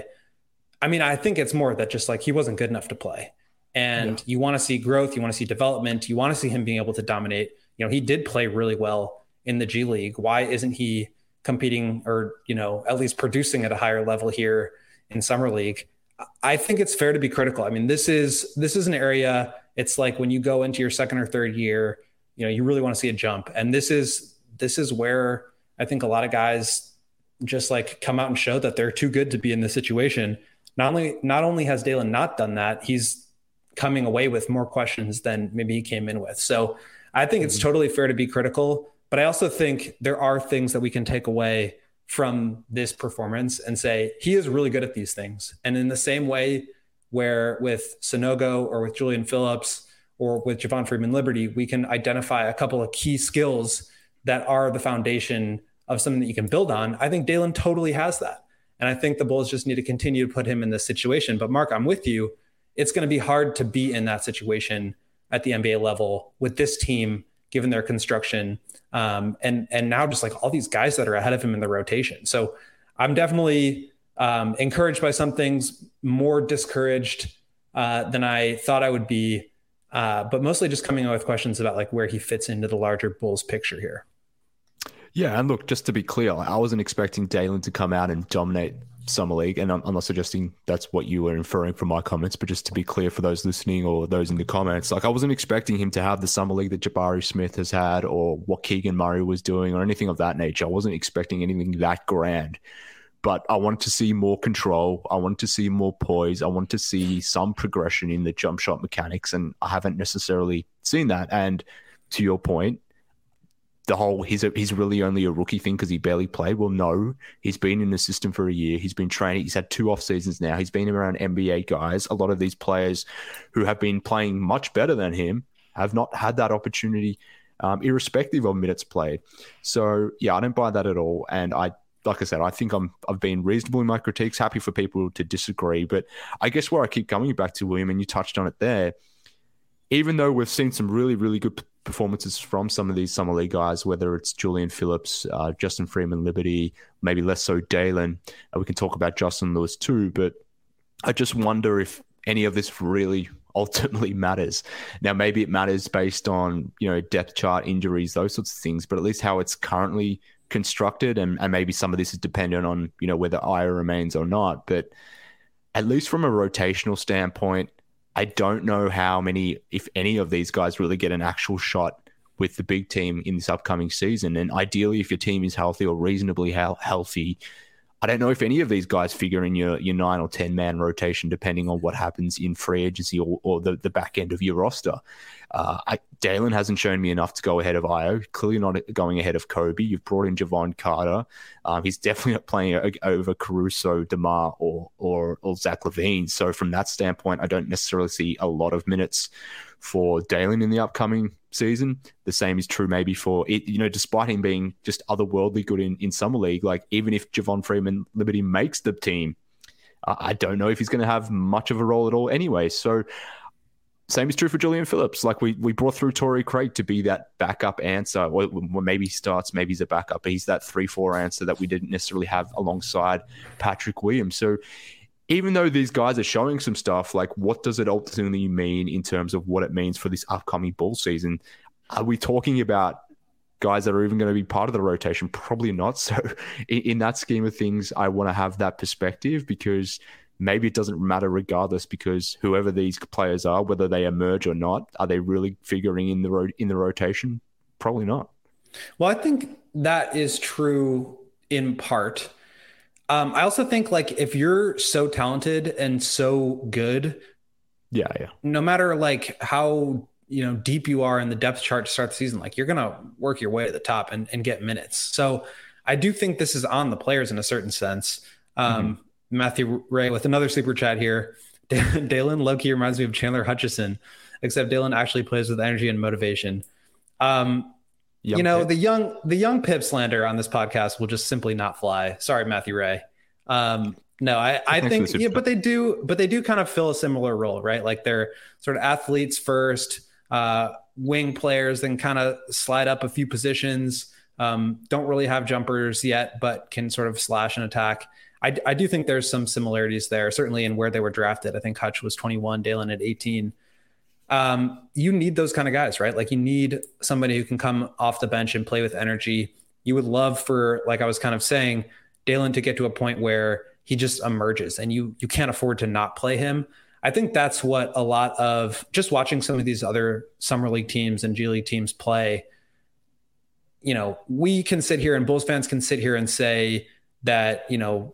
S2: I mean, I think it's more that just like he wasn't good enough to play. And you want to see growth, you want to see development, you want to see him being able to dominate. He did play really well in the G League. Why isn't he competing or, at least producing at a higher level here in Summer League? I think it's fair to be critical. I mean, this is an area, it's like when you go into your second or third year, you really want to see a jump. And this is where I think a lot of guys just like come out and show that they're too good to be in this situation. Not only has Daylon not done that, he's coming away with more questions than maybe he came in with. So I think it's totally fair to be critical, but I also think there are things that we can take away from this performance and say, he is really good at these things. And in the same way where with Sanogo or with Julian Phillips or with Javon Freeman-Liberty, we can identify a couple of key skills that are the foundation of something that you can build on. I think Daylon totally has that. And I think the Bulls just need to continue to put him in this situation. But Mark, I'm with you. It's going to be hard to be in that situation at the NBA level with this team, given their construction. And now just like all these guys that are ahead of him in the rotation. So I'm definitely encouraged by some things, more discouraged than I thought I would be. But mostly just coming up with questions about like where he fits into the larger Bulls picture here.
S1: Yeah, and look, just to be clear, I wasn't expecting Daylon to come out and dominate Summer League, and I'm not suggesting that's what you were inferring from my comments, but just to be clear for those listening or those in the comments, like I wasn't expecting him to have the Summer League that Jabari Smith has had or what Keegan Murray was doing or anything of that nature. I wasn't expecting anything that grand, but I wanted to see more control. I wanted to see more poise. I wanted to see some progression in the jump shot mechanics, and I haven't necessarily seen that. And to your point, the whole he's really only a rookie thing because he barely played. Well, no, he's been in the system for a year. He's been training. He's had 2 off seasons now. He's been around NBA guys. A lot of these players who have been playing much better than him have not had that opportunity, irrespective of minutes played. So yeah, I don't buy that at all. And like I said, I think I've been reasonable in my critiques. Happy for people to disagree, but I guess where I keep coming back to, William, and you touched on it there. Even though we've seen some really, really good performances from some of these Summer League guys, whether it's Julian Phillips, Justin Freeman-Liberty, maybe less so Daylon. We can talk about Justin Lewis too, but I just wonder if any of this really ultimately matters. Now, maybe it matters based on, depth chart, injuries, those sorts of things, but at least how it's currently constructed, and maybe some of this is dependent on, whether Aya remains or not, but at least from a rotational standpoint, I don't know how many, if any of these guys really get an actual shot with the big team in this upcoming season. And ideally, if your team is healthy or reasonably healthy, I don't know if any of these guys figure in your 9 or 10 man rotation, depending on what happens in free agency or the back end of your roster. Daylon hasn't shown me enough to go ahead of Io. Clearly not going ahead of Kobe. You've brought in Javon Carter. He's definitely not playing over Caruso, DeMar, or Zach LaVine. So from that standpoint, I don't necessarily see a lot of minutes for Daylon in the upcoming season. The same is true maybe for it, despite him being just otherworldly good in Summer League. Like even if Javon Freeman-Liberty makes the team, I don't know if he's going to have much of a role at all anyway. So same is true for Julian Phillips. Like we brought through Torrey Craig to be that backup answer, or maybe he starts, maybe he's a backup, but he's that 3-4 answer that we didn't necessarily have alongside Patrick Williams. So even though these guys are showing some stuff, like what does it ultimately mean in terms of what it means for this upcoming Bull season? Are we talking about guys that are even going to be part of the rotation? Probably not. So in that scheme of things, I want to have that perspective because maybe it doesn't matter regardless, because whoever these players are, whether they emerge or not, are they really figuring in the rotation? Probably not.
S2: Well, I think that is true in part. I also think like if you're so talented and so good,
S1: yeah,
S2: no matter like how deep you are in the depth chart to start the season, like you're gonna work your way to the top and get minutes. So I do think this is on the players in a certain sense. Matthew Ray with another super chat here. Dalen low-key reminds me of Chandler Hutchison, except Dalen actually plays with energy and motivation. The young Pip slander on this podcast will just simply not fly. Sorry, Matthew Ray. No, I think, but they do kind of fill a similar role, right? Like they're sort of athletes first, wing players, then kind of slide up a few positions. Don't really have jumpers yet, but can sort of slash and attack. I do think there's some similarities there, certainly in where they were drafted. I think Hutch was 21, Dalen at 18. You need those kind of guys, right? Like you need somebody who can come off the bench and play with energy. You would love for, like I was kind of saying, Dalen to get to a point where he just emerges and you can't afford to not play him. I think that's what a lot of just watching some of these other summer league teams and G League teams play. We can sit here and Bulls fans can sit here and say that,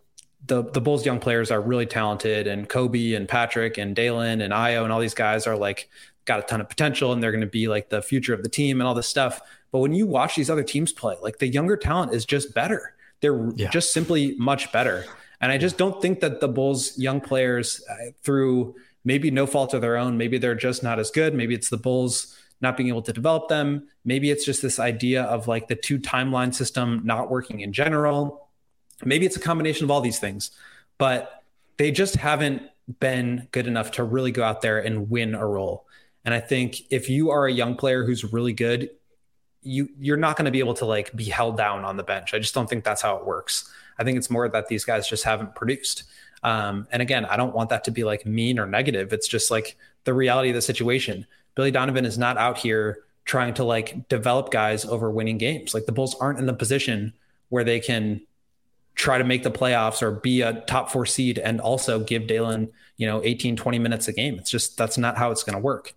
S2: the Bulls young players are really talented, and Kobe and Patrick and Dalen and Ayo and all these guys are like got a ton of potential and they're going to be like the future of the team and all this stuff. But when you watch these other teams play, like the younger talent is just better. They're just simply much better. And I just don't think that the Bulls young players, through maybe no fault of their own, maybe they're just not as good. Maybe it's the Bulls not being able to develop them. Maybe it's just this idea of like the 2 timeline system not working in general. Maybe it's a combination of all these things, but they just haven't been good enough to really go out there and win a role. And I think if you are a young player who's really good, you're not going to be able to like be held down on the bench. I just don't think that's how it works. I think it's more that these guys just haven't produced. And again, I don't want that to be like mean or negative. It's just like the reality of the situation. Billy Donovan is not out here trying to like develop guys over winning games. Like the Bulls aren't in the position where they can try to make the playoffs or be a top 4 seed and also give Dalen, 18, 20 minutes a game. It's just, that's not how it's going to work.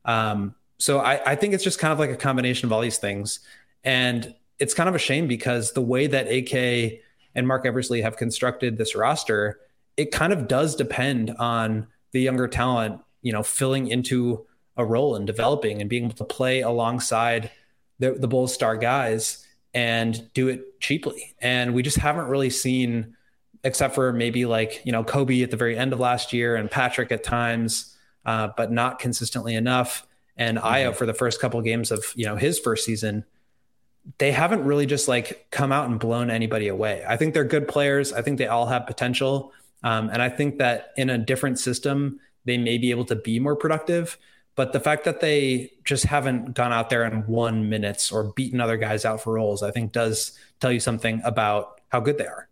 S2: So I think it's just kind of like a combination of all these things. And it's kind of a shame because the way that AK and Mark Eversley have constructed this roster, it kind of does depend on the younger talent, filling into a role and developing and being able to play alongside the Bulls star guys and do it cheaply. And we just haven't really seen, except for maybe like, Kobe at the very end of last year and Patrick at times, but not consistently enough. And Ayo for the first couple of games of, his first season, they haven't really just like come out and blown anybody away. I think they're good players. I think they all have potential. And I think that in a different system, they may be able to be more productive. But the fact that they just haven't gone out there and won minutes or beaten other guys out for roles, I think does tell you something about how good they are.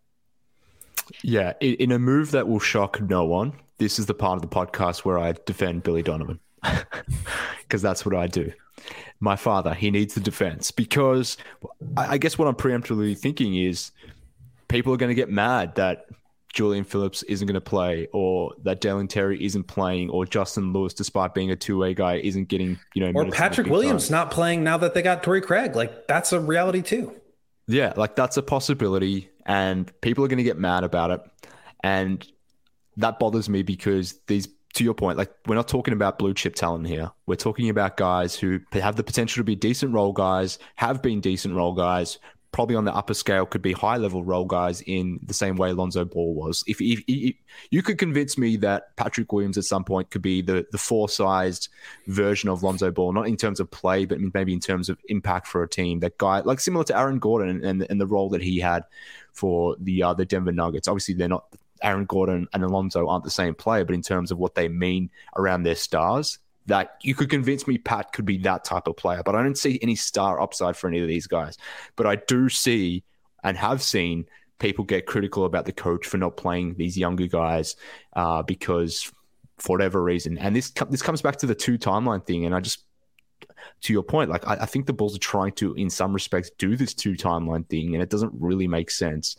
S1: Yeah, in a move that will shock no one, this is the part of the podcast where I defend Billy Donovan because that's what I do. My father, he needs the defense because I guess what I'm preemptively thinking is people are going to get mad that Julian Phillips isn't going to play, or that Dalen Terry isn't playing, or Justin Lewis, despite being a 2-way guy, isn't getting,
S2: or Patrick Williams not playing now that they got Torrey Craig. Like that's a reality too.
S1: Yeah. Like that's a possibility and people are going to get mad about it. And that bothers me because to your point, like we're not talking about blue chip talent here. We're talking about guys who have the potential to be decent role guys, have been decent role guys, probably on the upper scale could be high-level role guys in the same way Lonzo Ball was. If you could convince me that Patrick Williams at some point could be the 4-sized version of Lonzo Ball, not in terms of play, but maybe in terms of impact for a team, that guy, like similar to Aaron Gordon and the role that he had for the Denver Nuggets. Obviously, they're not Aaron Gordon and Alonzo aren't the same player, but in terms of what they mean around their stars, that you could convince me Pat could be that type of player. But I don't see any star upside for any of these guys. But I do see and have seen people get critical about the coach for not playing these younger guys because for whatever reason. And this comes back to the 2 timeline thing. And to your point, like I think the Bulls are trying to, in some respects, do this 2 timeline thing, and it doesn't really make sense.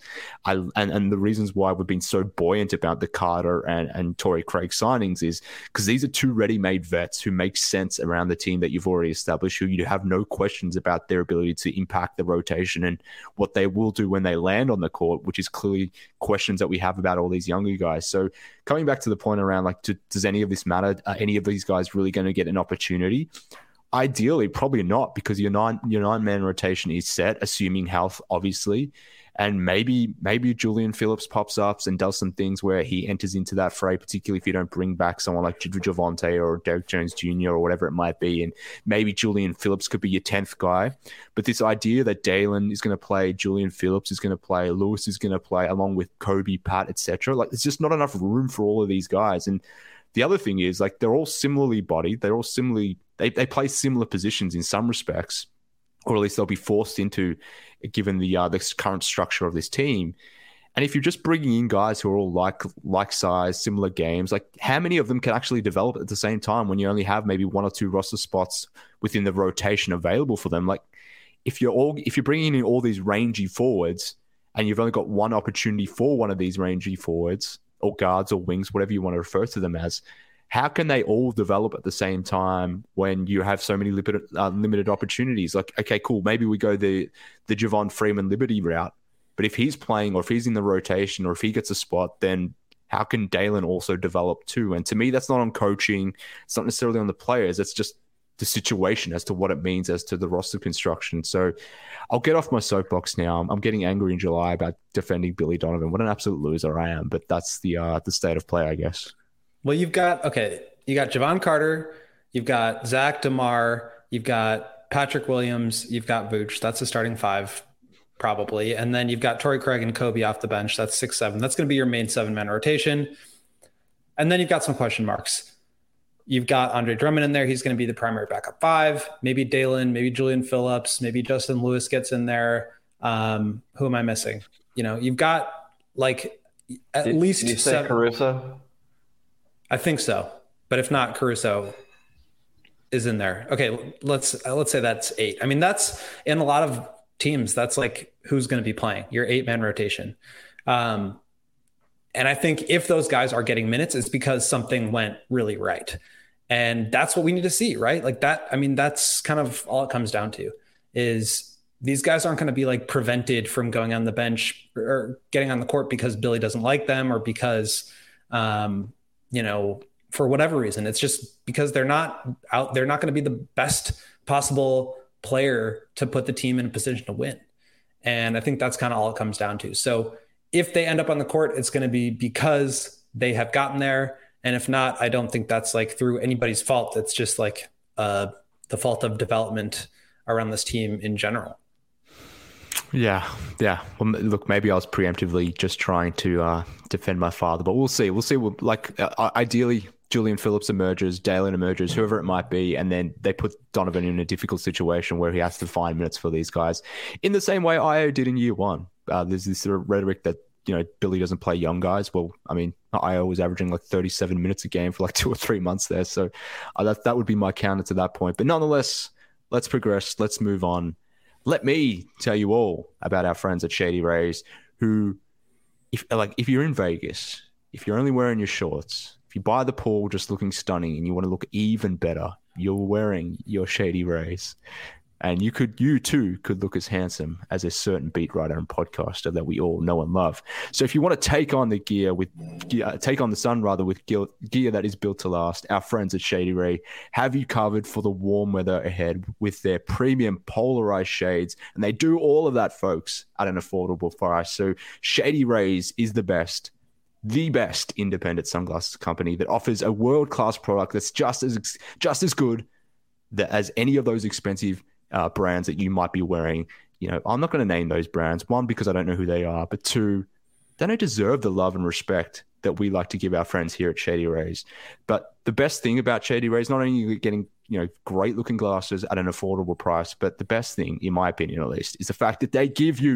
S1: And the reasons why we've been so buoyant about the Carter and Torrey Craig signings is because these are 2 ready-made vets who make sense around the team that you've already established, who you have no questions about their ability to impact the rotation and what they will do when they land on the court, which is clearly questions that we have about all these younger guys. So coming back to the point around, like, does any of this matter? Are any of these guys really going to get an opportunity? Ideally, probably not, because your nine-man rotation is set, assuming health, obviously. And maybe Julian Phillips pops up and does some things where he enters into that fray, particularly if you don't bring back someone like Javonte or Derek Jones Jr. or whatever it might be. And maybe Julian Phillips could be your 10th guy. But this idea that Dalen is going to play, Julian Phillips is going to play, Lewis is going to play, along with Kobe, Pat, etc. Like, there's just not enough room for all of these guys. And the other thing is, like, they're all similarly bodied. They're all similarly, they play similar positions in some respects, or at least they'll be forced into, given the current structure of this team. And if you're just bringing in guys who are all like size, similar games, like, how many of them can actually develop at the same time when you only have maybe 1 or 2 roster spots within the rotation available for them? Like, if you're bringing in all these rangy forwards and you've only got 1 opportunity for one of these rangy forwards or guards or wings, whatever you want to refer to them as, how can they all develop at the same time when you have so many limited opportunities? Like, okay, cool, maybe we go the Javon Freeman Liberty route, but if he's playing or if he's in the rotation or if he gets a spot, then how can Dalen also develop too? And to me, that's not on coaching. It's not necessarily on the players. It's just the situation as to what it means as to the roster construction. So I'll get off my soapbox now. I'm getting angry in July about defending Billy Donovan. What an absolute loser I am, but that's the state of play, I guess.
S2: Well, you got Javon Carter, you've got Zach DeMar, you've got Patrick Williams, you've got Vooch. That's the starting 5, probably. And then you've got Torrey Craig and Kobe off the bench. That's 6-7. That's going to be your main 7-man rotation. And then you've got some question marks. You've got Andre Drummond in there. He's going to be the primary backup 5. Maybe Dalen, maybe Julian Phillips, maybe Justin Lewis gets in there. Who am I missing? You've got like at least
S3: did you say
S2: 7.
S3: Caruso?
S2: I think so, but if not, Caruso is in there. Okay, let's say that's 8. I mean, that's in a lot of teams. That's like who's going to be playing your 8-man rotation. And I think if those guys are getting minutes, it's because something went really right, and that's what we need to see, right? Like that. I mean, that's kind of all it comes down to. Is these guys aren't going to be like prevented from going on the bench or getting on the court because Billy doesn't like them or because for whatever reason. It's just because they're not out. They're not going to be the best possible player to put the team in a position to win. And I think that's kind of all it comes down to. So if they end up on the court, it's going to be because they have gotten there. And if not, I don't think that's like through anybody's fault. It's just like the fault of development around this team in general.
S1: Yeah. Well, look, maybe I was preemptively just trying to defend my father, but we'll see. Ideally, Julian Phillips emerges, Dalen emerges, whoever it might be, and then they put Donovan in a difficult situation where he has to find minutes for these guys in the same way Io did in year 1. There's this sort of rhetoric that, Billy doesn't play young guys. Well, I mean, Io was averaging like 37 minutes a game for like 2 or 3 months there. So that would be my counter to that point. But nonetheless, let's progress. Let's move on. Let me tell you all about our friends at Shady Rays, who, if you're in Vegas, if you're only wearing your shorts, if you buy the pool just looking stunning and you want to look even better, you're wearing your Shady Rays. And you too could look as handsome as a certain beat writer and podcaster that we all know and love. So if you want to take on the sun with gear that is built to last, our friends at Shady Ray have you covered for the warm weather ahead with their premium polarized shades. And they do all of that, folks, at an affordable price. So Shady Rays is the best independent sunglasses company that offers a world-class product that's just as good as any of those expensive brands that you might be wearing. I'm not going to name those brands. 1, because I don't know who they are, but 2, they don't deserve the love and respect that we like to give our friends here at Shady Rays. But the best thing about Shady Rays, not only are you getting great looking glasses at an affordable price, but the best thing, in my opinion at least, is the fact that they give you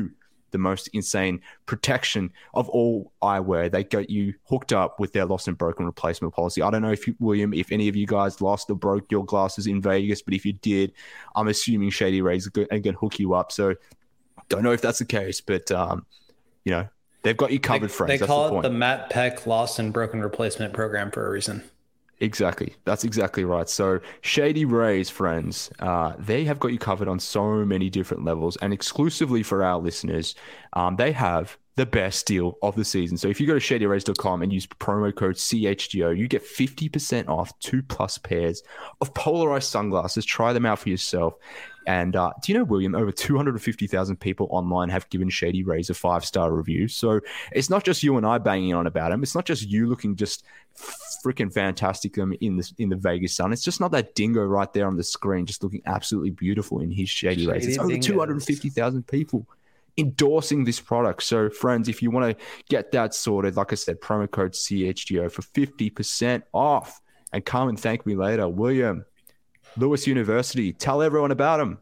S1: the most insane protection of all eyewear. They got you hooked up with their lost and broken replacement policy. I don't know William, if any of you guys lost or broke your glasses in Vegas, but if you did, I'm assuming Shady Rays are going to hook you up. So don't know if that's the case, but they've got you covered, friends.
S2: They call it the Matt Peck Lost and Broken Replacement Program for a reason.
S1: Exactly. That's exactly right. So Shady Rays, friends, they have got you covered on so many different levels, and exclusively for our listeners, they have the best deal of the season. So if you go to shadyrays.com and use promo code CHGO, you get 50% off 2+ pairs of polarized sunglasses. Try them out for yourself. And do you know, William, over 250,000 people online have given Shady Rays a 5-star review. So it's not just you and I banging on about them. It's not just you looking just freaking fantastic in the Vegas sun. It's just not that dingo right there on the screen just looking absolutely beautiful in his Shady Rays. It's over 250,000 people endorsing this product. So friends, if you want to get that sorted, like I said, promo code CHGO for 50% off, and come and thank me later. William, Lewis University, tell everyone about them.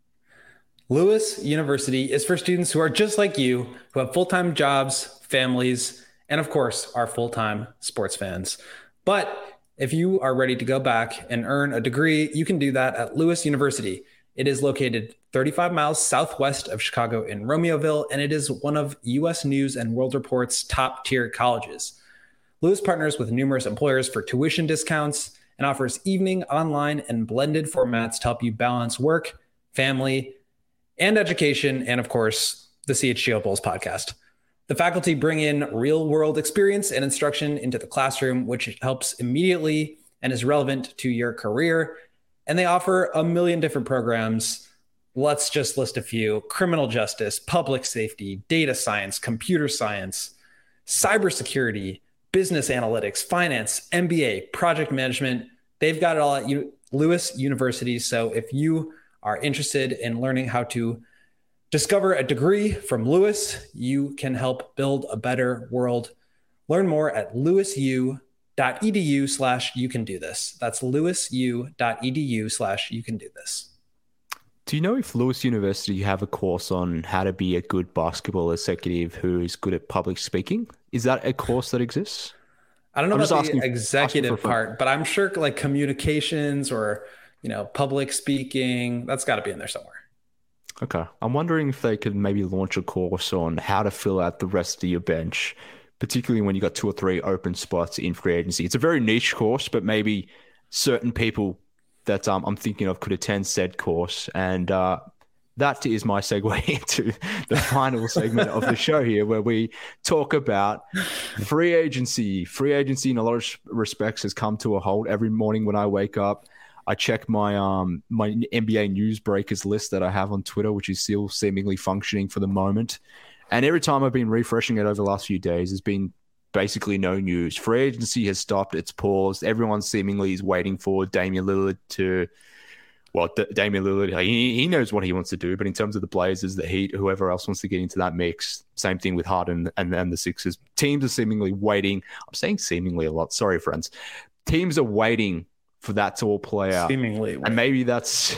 S2: Lewis University is for students who are just like you, who have full-time jobs, families, and of course are full-time sports fans. But if you are ready to go back and earn a degree, you can do that at Lewis University. It is located 35 miles southwest of Chicago in Romeoville, and it is one of U.S. News and World Report's top-tier colleges. Lewis partners with numerous employers for tuition discounts and offers evening, online, and blended formats to help you balance work, family, and education, and of course, the CHGO Bulls podcast. The faculty bring in real-world experience and instruction into the classroom, which helps immediately and is relevant to your career. And they offer a million different programs. Let's just list a few: criminal justice, public safety, data science, computer science, cybersecurity, business analytics, finance, MBA, project management. They've got it all at Lewis University. So if you are interested in learning how to discover a degree from Lewis, you can help build a better world. Learn more at lewisu.edu/you-can-do-this. That's lewisu.edu/you-can-do-this.
S1: Do you know if Lewis University have a course on how to be a good basketball executive who is good at public speaking? Is that a course that exists?
S2: I don't know about the executive part, but I'm sure like communications or, public speaking, that's got to be in there somewhere.
S1: Okay. I'm wondering if they could maybe launch a course on how to fill out the rest of your bench, particularly when you got 2 or 3 open spots in free agency. It's a very niche course, but maybe certain people that I'm thinking of could attend said course. And that is my segue into the final segment of the show here, where we talk about free agency. Free agency in a lot of respects has come to a halt. Every morning when I wake up, I check my my NBA news breakers list that I have on Twitter, which is still seemingly functioning for the moment. And every time I've been refreshing it over the last few days, there's been basically no news. Free agency has stopped. It's paused. Everyone seemingly is waiting for Damian Lillard to, Damian Lillard, he knows what he wants to do, but in terms of the Blazers, the Heat, whoever else wants to get into that mix, same thing with Harden and the Sixers. Teams are seemingly waiting. I'm saying seemingly a lot. Sorry, friends. Teams are waiting for that to all play out.
S2: Seemingly.
S1: And maybe that's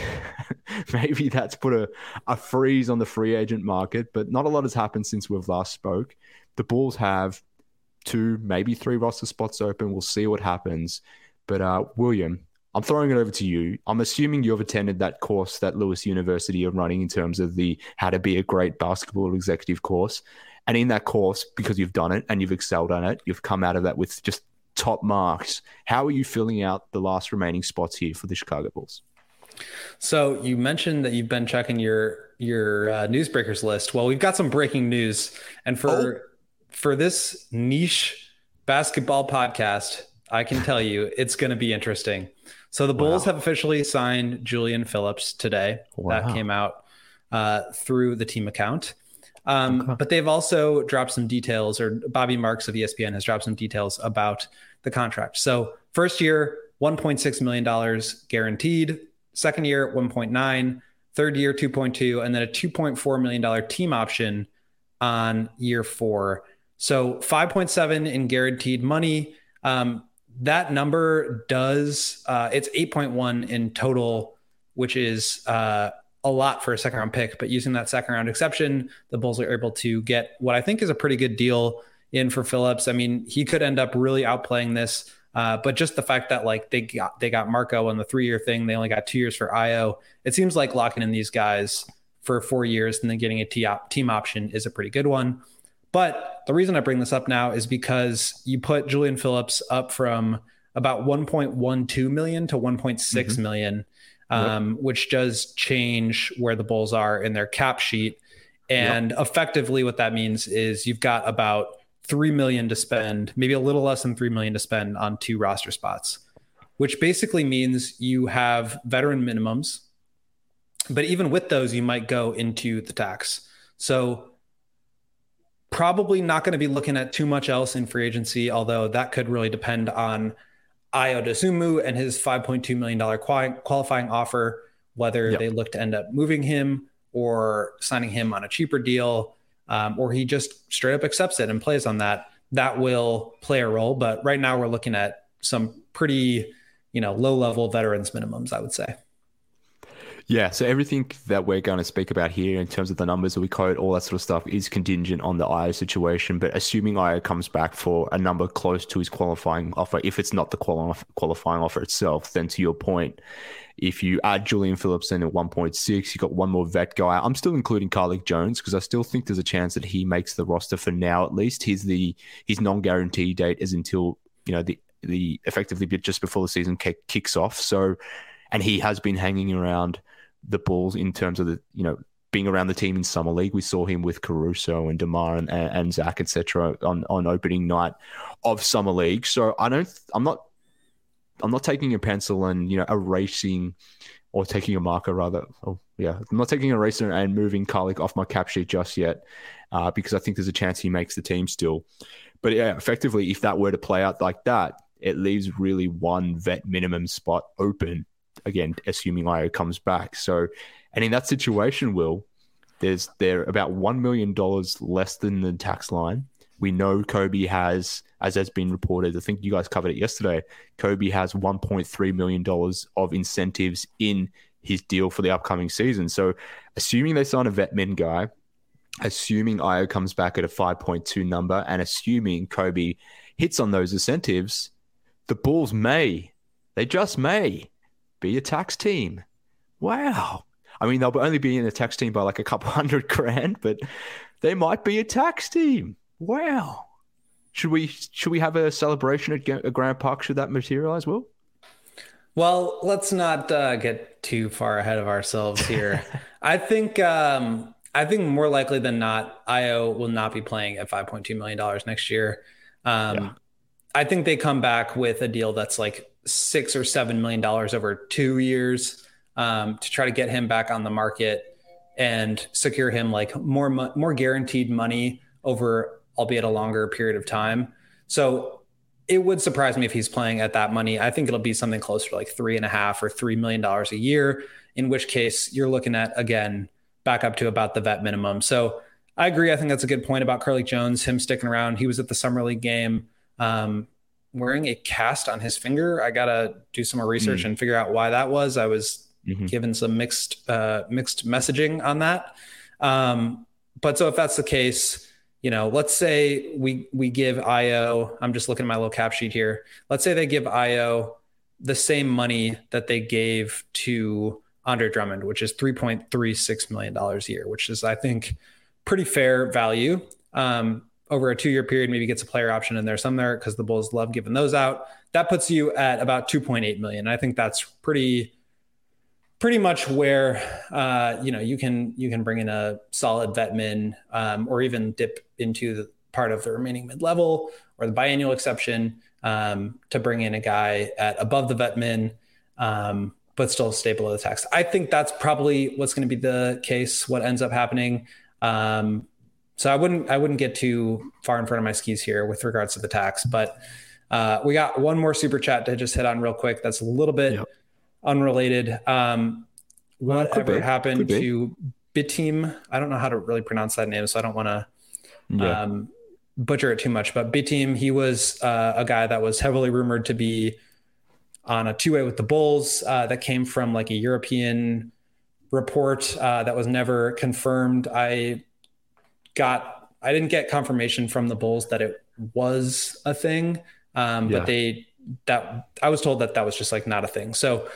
S1: put a freeze on the free agent market, but not a lot has happened since we've last spoke. The Bulls have 2, maybe 3 roster spots open. We'll see what happens. But William, I'm throwing it over to you. I'm assuming you've attended that course that Lewis University are running in terms of the how to be a great basketball executive course. And in that course, because you've done it and you've excelled at it, you've come out of that with just top marks. How are you filling out the last remaining spots here for the Chicago Bulls?
S2: So you mentioned that you've been checking your newsbreakers list. Well, we've got some breaking news. And for this niche basketball podcast, I can tell you it's going to be interesting. So the Bulls have officially signed Julian Phillips today. Wow. That came out through the team account. But they've also dropped some details, or Bobby Marks of ESPN has dropped some details about the contract. So first year, $1.6 million guaranteed. Second year, 1.9. Third year, 2.2. And then a $2.4 million team option on year 4. So 5.7 in guaranteed money. That number does, it's 8.1 in total, which is a a lot for a second round pick, but using that second round exception, the Bulls are able to get what I think is a pretty good deal in for Phillips. I mean, he could end up really outplaying this, but just the fact that like they got Marco on the 3-year thing, they only got 2 years for Io. It seems like locking in these guys for 4 years and then getting a team option is a pretty good one. But the reason I bring this up now is because you put Julian Phillips up from about 1.12 million to 1.6 million, which does change where the Bulls are in their cap sheet. And effectively what that means is you've got about 3 million to spend, maybe a little less than 3 million to spend on 2 roster spots, which basically means you have veteran minimums. But even with those, you might go into the tax. So probably not going to be looking at too much else in free agency, although that could really depend on Ayo Dosunmu and his $5.2 million qualifying offer, whether they look to end up moving him or signing him on a cheaper deal, or he just straight up accepts it and plays on that. That will play a role. But right now we're looking at some pretty, low-level veterans minimums, I would say.
S1: Yeah, so everything that we're going to speak about here in terms of the numbers that we quote, all that sort of stuff is contingent on the Ayo situation. But assuming Ayo comes back for a number close to his qualifying offer, if it's not the qualifying offer itself, then to your point, if you add Julian Phillips in at 1.6, you got one more vet guy. I'm still including Carlik Jones because I still think there's a chance that he makes the roster for now. At least his non-guarantee date is until the effectively just before the season kicks off. So, and he has been hanging around the Bulls in terms of being around the team in summer league. We saw him with Caruso and DeMar and Zach, etc. on opening night of summer league. So I'm not taking a pencil and erasing or taking a marker rather. I'm not taking an eraser and moving Carlik off my cap sheet just yet because I think there's a chance he makes the team still. But yeah, effectively, if that were to play out like that, it leaves really one vet minimum spot open. Again, assuming Ayo comes back. So, and in that situation, they're about $1 million less than the tax line. We know Kobe has, as has been reported, I think you guys covered it yesterday, Kobe has $1.3 million of incentives in his deal for the upcoming season. So assuming they sign a vet min guy, assuming Ayo comes back at a 5.2 number, and assuming Kobe hits on those incentives, the Bulls just may be a tax team. Wow. I mean, they'll only be in a tax team by like a couple $100,000, but they might be a tax team. Wow. Should we have a celebration at Grant Park should that materialize, Will?
S2: Well, let's not get too far ahead of ourselves here. I think more likely than not, Ayo will not be playing at $5.2 million next year. I think they come back with a deal that's like $6 or $7 million over 2 years to try to get him back on the market and secure him like more guaranteed money over, albeit a longer period of time. So it would surprise me if he's playing at that money. I think it'll be something closer to like $3.5 or $3 million a year, in which case you're looking at, again, back up to about the vet minimum. So I agree. I think that's a good point about Carlik Jones, him sticking around. He was at the Summer League game wearing a cast on his finger. I got to do some more research and figure out why that was. I was given some mixed messaging on that. But so if that's the case, let's say we give Ayo, I'm just looking at my little cap sheet here. Let's say they give Ayo the same money that they gave to Andre Drummond, which is $3.36 million a year, which is, I think, pretty fair value. Over a 2-year period, maybe gets a player option in there somewhere because the Bulls love giving those out. That puts you at about $2.8 million. I think that's pretty much where you can bring in a solid vet min or even dip into the part of the remaining mid-level or the biannual exception to bring in a guy at above the vet min, but still stay below the tax. I think that's probably what's going to be the case, what ends up happening. So I wouldn't get too far in front of my skis here with regards to the tax, but we got one more super chat to just hit on real quick. That's a little bit unrelated. Whatever happened to Bitim? I don't know how to really pronounce that name, so I don't want to butcher it too much, but Bitim, he was a guy that was heavily rumored to be on a 2-way with the Bulls that came from like a European report that was never confirmed. I didn't get confirmation from the Bulls that it was a thing, but I was told that was just like not a thing. So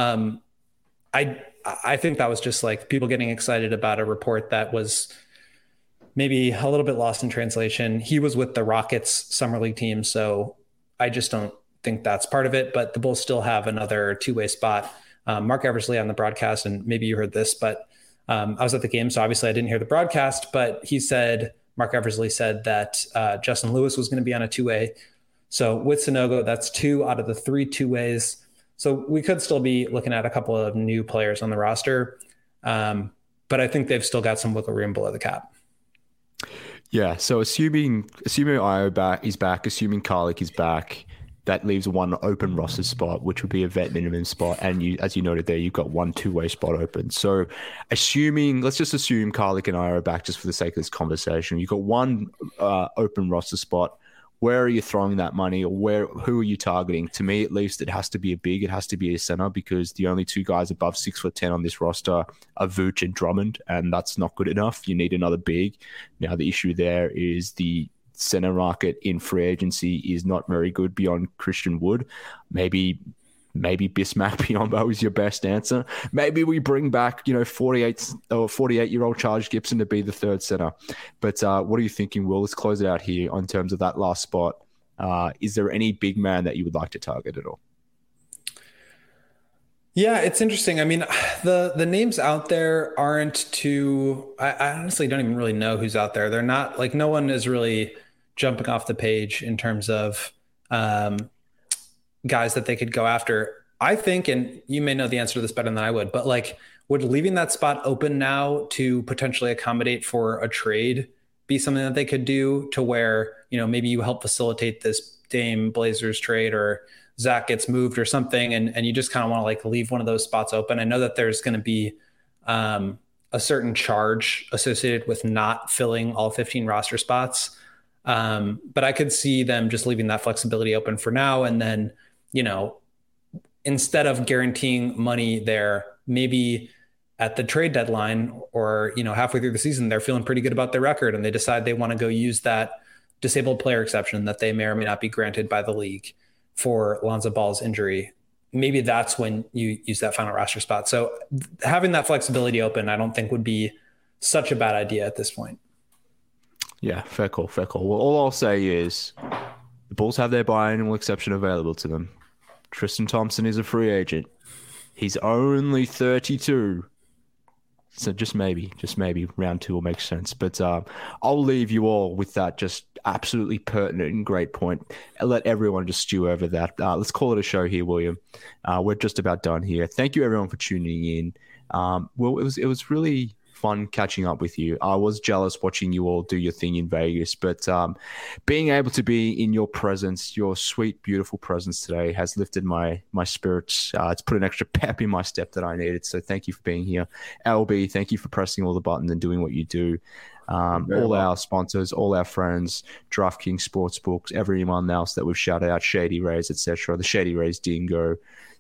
S2: I think that was just like people getting excited about a report that was maybe a little bit lost in translation. He was with the Rockets summer league team, so I just don't think that's part of it. But the Bulls still have another two-way spot. Mark Eversley on the broadcast, and maybe you heard this, but I was at the game, so obviously I didn't hear the broadcast, but Mark Eversley said that Justin Lewis was going to be on a two-way. So with Sanogo, that's 2 out of the 3 two-ways. So we could still be looking at a couple of new players on the roster. But I think they've still got some wiggle room below the cap.
S1: Yeah. So assuming Ayo is back, assuming Karlik is back, that leaves one open roster spot, which would be a vet minimum spot. And as you noted there, you've got one two-way spot open. So let's just assume Karlik and Ayo are back just for the sake of this conversation. You've got one open roster spot. Where are you throwing that money, or who are you targeting? To me, at least, it has to be it has to be a center, because the only 2 guys above 6'10" on this roster are Vooch and Drummond, and that's not good enough. You need another big. Now, the issue there is the center market in free agency is not very good beyond Christian Wood. Maybe Bismack Biyombo is your best answer. Maybe we bring back, 48-year-old Charles Gibson to be the third center. But what are you thinking, Will? Let's close it out here on terms of that last spot. Is there any big man that you would like to target at all?
S2: Yeah, it's interesting. I mean, the names out there aren't too. I honestly don't even really know who's out there. They're not like, no one is really jumping off the page in terms of guys that they could go after. I think, and you may know the answer to this better than I would, but like, would leaving that spot open now to potentially accommodate for a trade be something that they could do, to where, maybe you help facilitate this Dame Blazers trade, or Zach gets moved or something, and you just kind of want to like leave one of those spots open. I know that there's going to be a certain charge associated with not filling all 15 roster spots. But I could see them just leaving that flexibility open for now. And then, instead of guaranteeing money there, maybe at the trade deadline or, halfway through the season, they're feeling pretty good about their record and they decide they want to go use that disabled player exception that they may or may not be granted by the league for Lonzo Ball's injury. Maybe that's when you use that final roster spot. So having that flexibility open, I don't think would be such a bad idea at this point.
S1: Yeah, fair call. Well, all I'll say is the Bulls have their biannual exception available to them. Tristan Thompson is a free agent. He's only 32. So just maybe round 2 will make sense. But I'll leave you all with that just absolutely pertinent and great point. I'll let everyone just stew over that. Let's call it a show here, William. We're just about done here. Thank you, everyone, for tuning in. Well, it was really fun catching up with you. I was jealous watching you all do your thing in Vegas, but being able to be in your presence, your sweet, beautiful presence today has lifted my spirits. It's put an extra pep in my step that I needed. So thank you for being here. LB, thank you for pressing all the buttons and doing what you do. All our sponsors, all our friends, DraftKings Sportsbooks, everyone else that we've shouted out, Shady Rays, etc. The Shady Rays Dingo,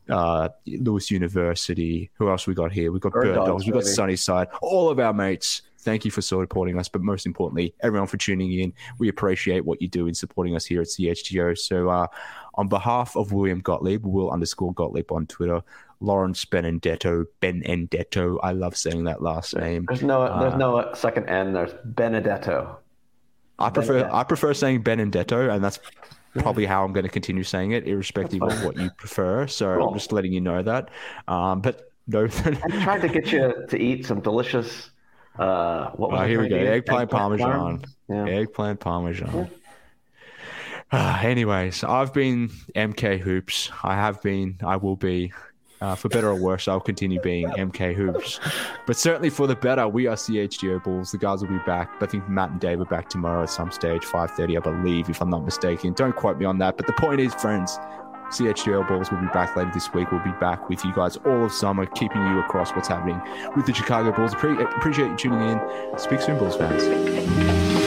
S1: Lewis University. Who else we got here? We've got Bird Dogs, we've got Sunnyside, all of our mates. Thank you for supporting us, but most importantly, everyone for tuning in. We appreciate what you do in supporting us here at CHGO. So on behalf of William Gottlieb, Will_Gottlieb on Twitter, Lawrence Benedetto, I love saying that last name.
S3: There's no second N, there's Benedetto.
S1: I prefer saying Benedetto, and that's probably how I'm going to continue saying it, irrespective of what you prefer. So cool. I'm just letting you know that. But no,
S3: I tried to get you to eat some delicious.
S1: Here we go. Eggplant Parmesan. Yeah. Eggplant Parmesan. Yeah. Anyways, I've been MK Hoops. I will be. For better or worse, I'll continue being MK Hoops. But certainly for the better, we are CHGO Bulls. The guys will be back. I think Matt and Dave are back tomorrow at some stage, 5:30, I believe, if I'm not mistaken. Don't quote me on that. But the point is, friends, CHGO Bulls will be back later this week. We'll be back with you guys all of summer, keeping you across what's happening with the Chicago Bulls. Appreciate you tuning in. Speak soon, Bulls fans.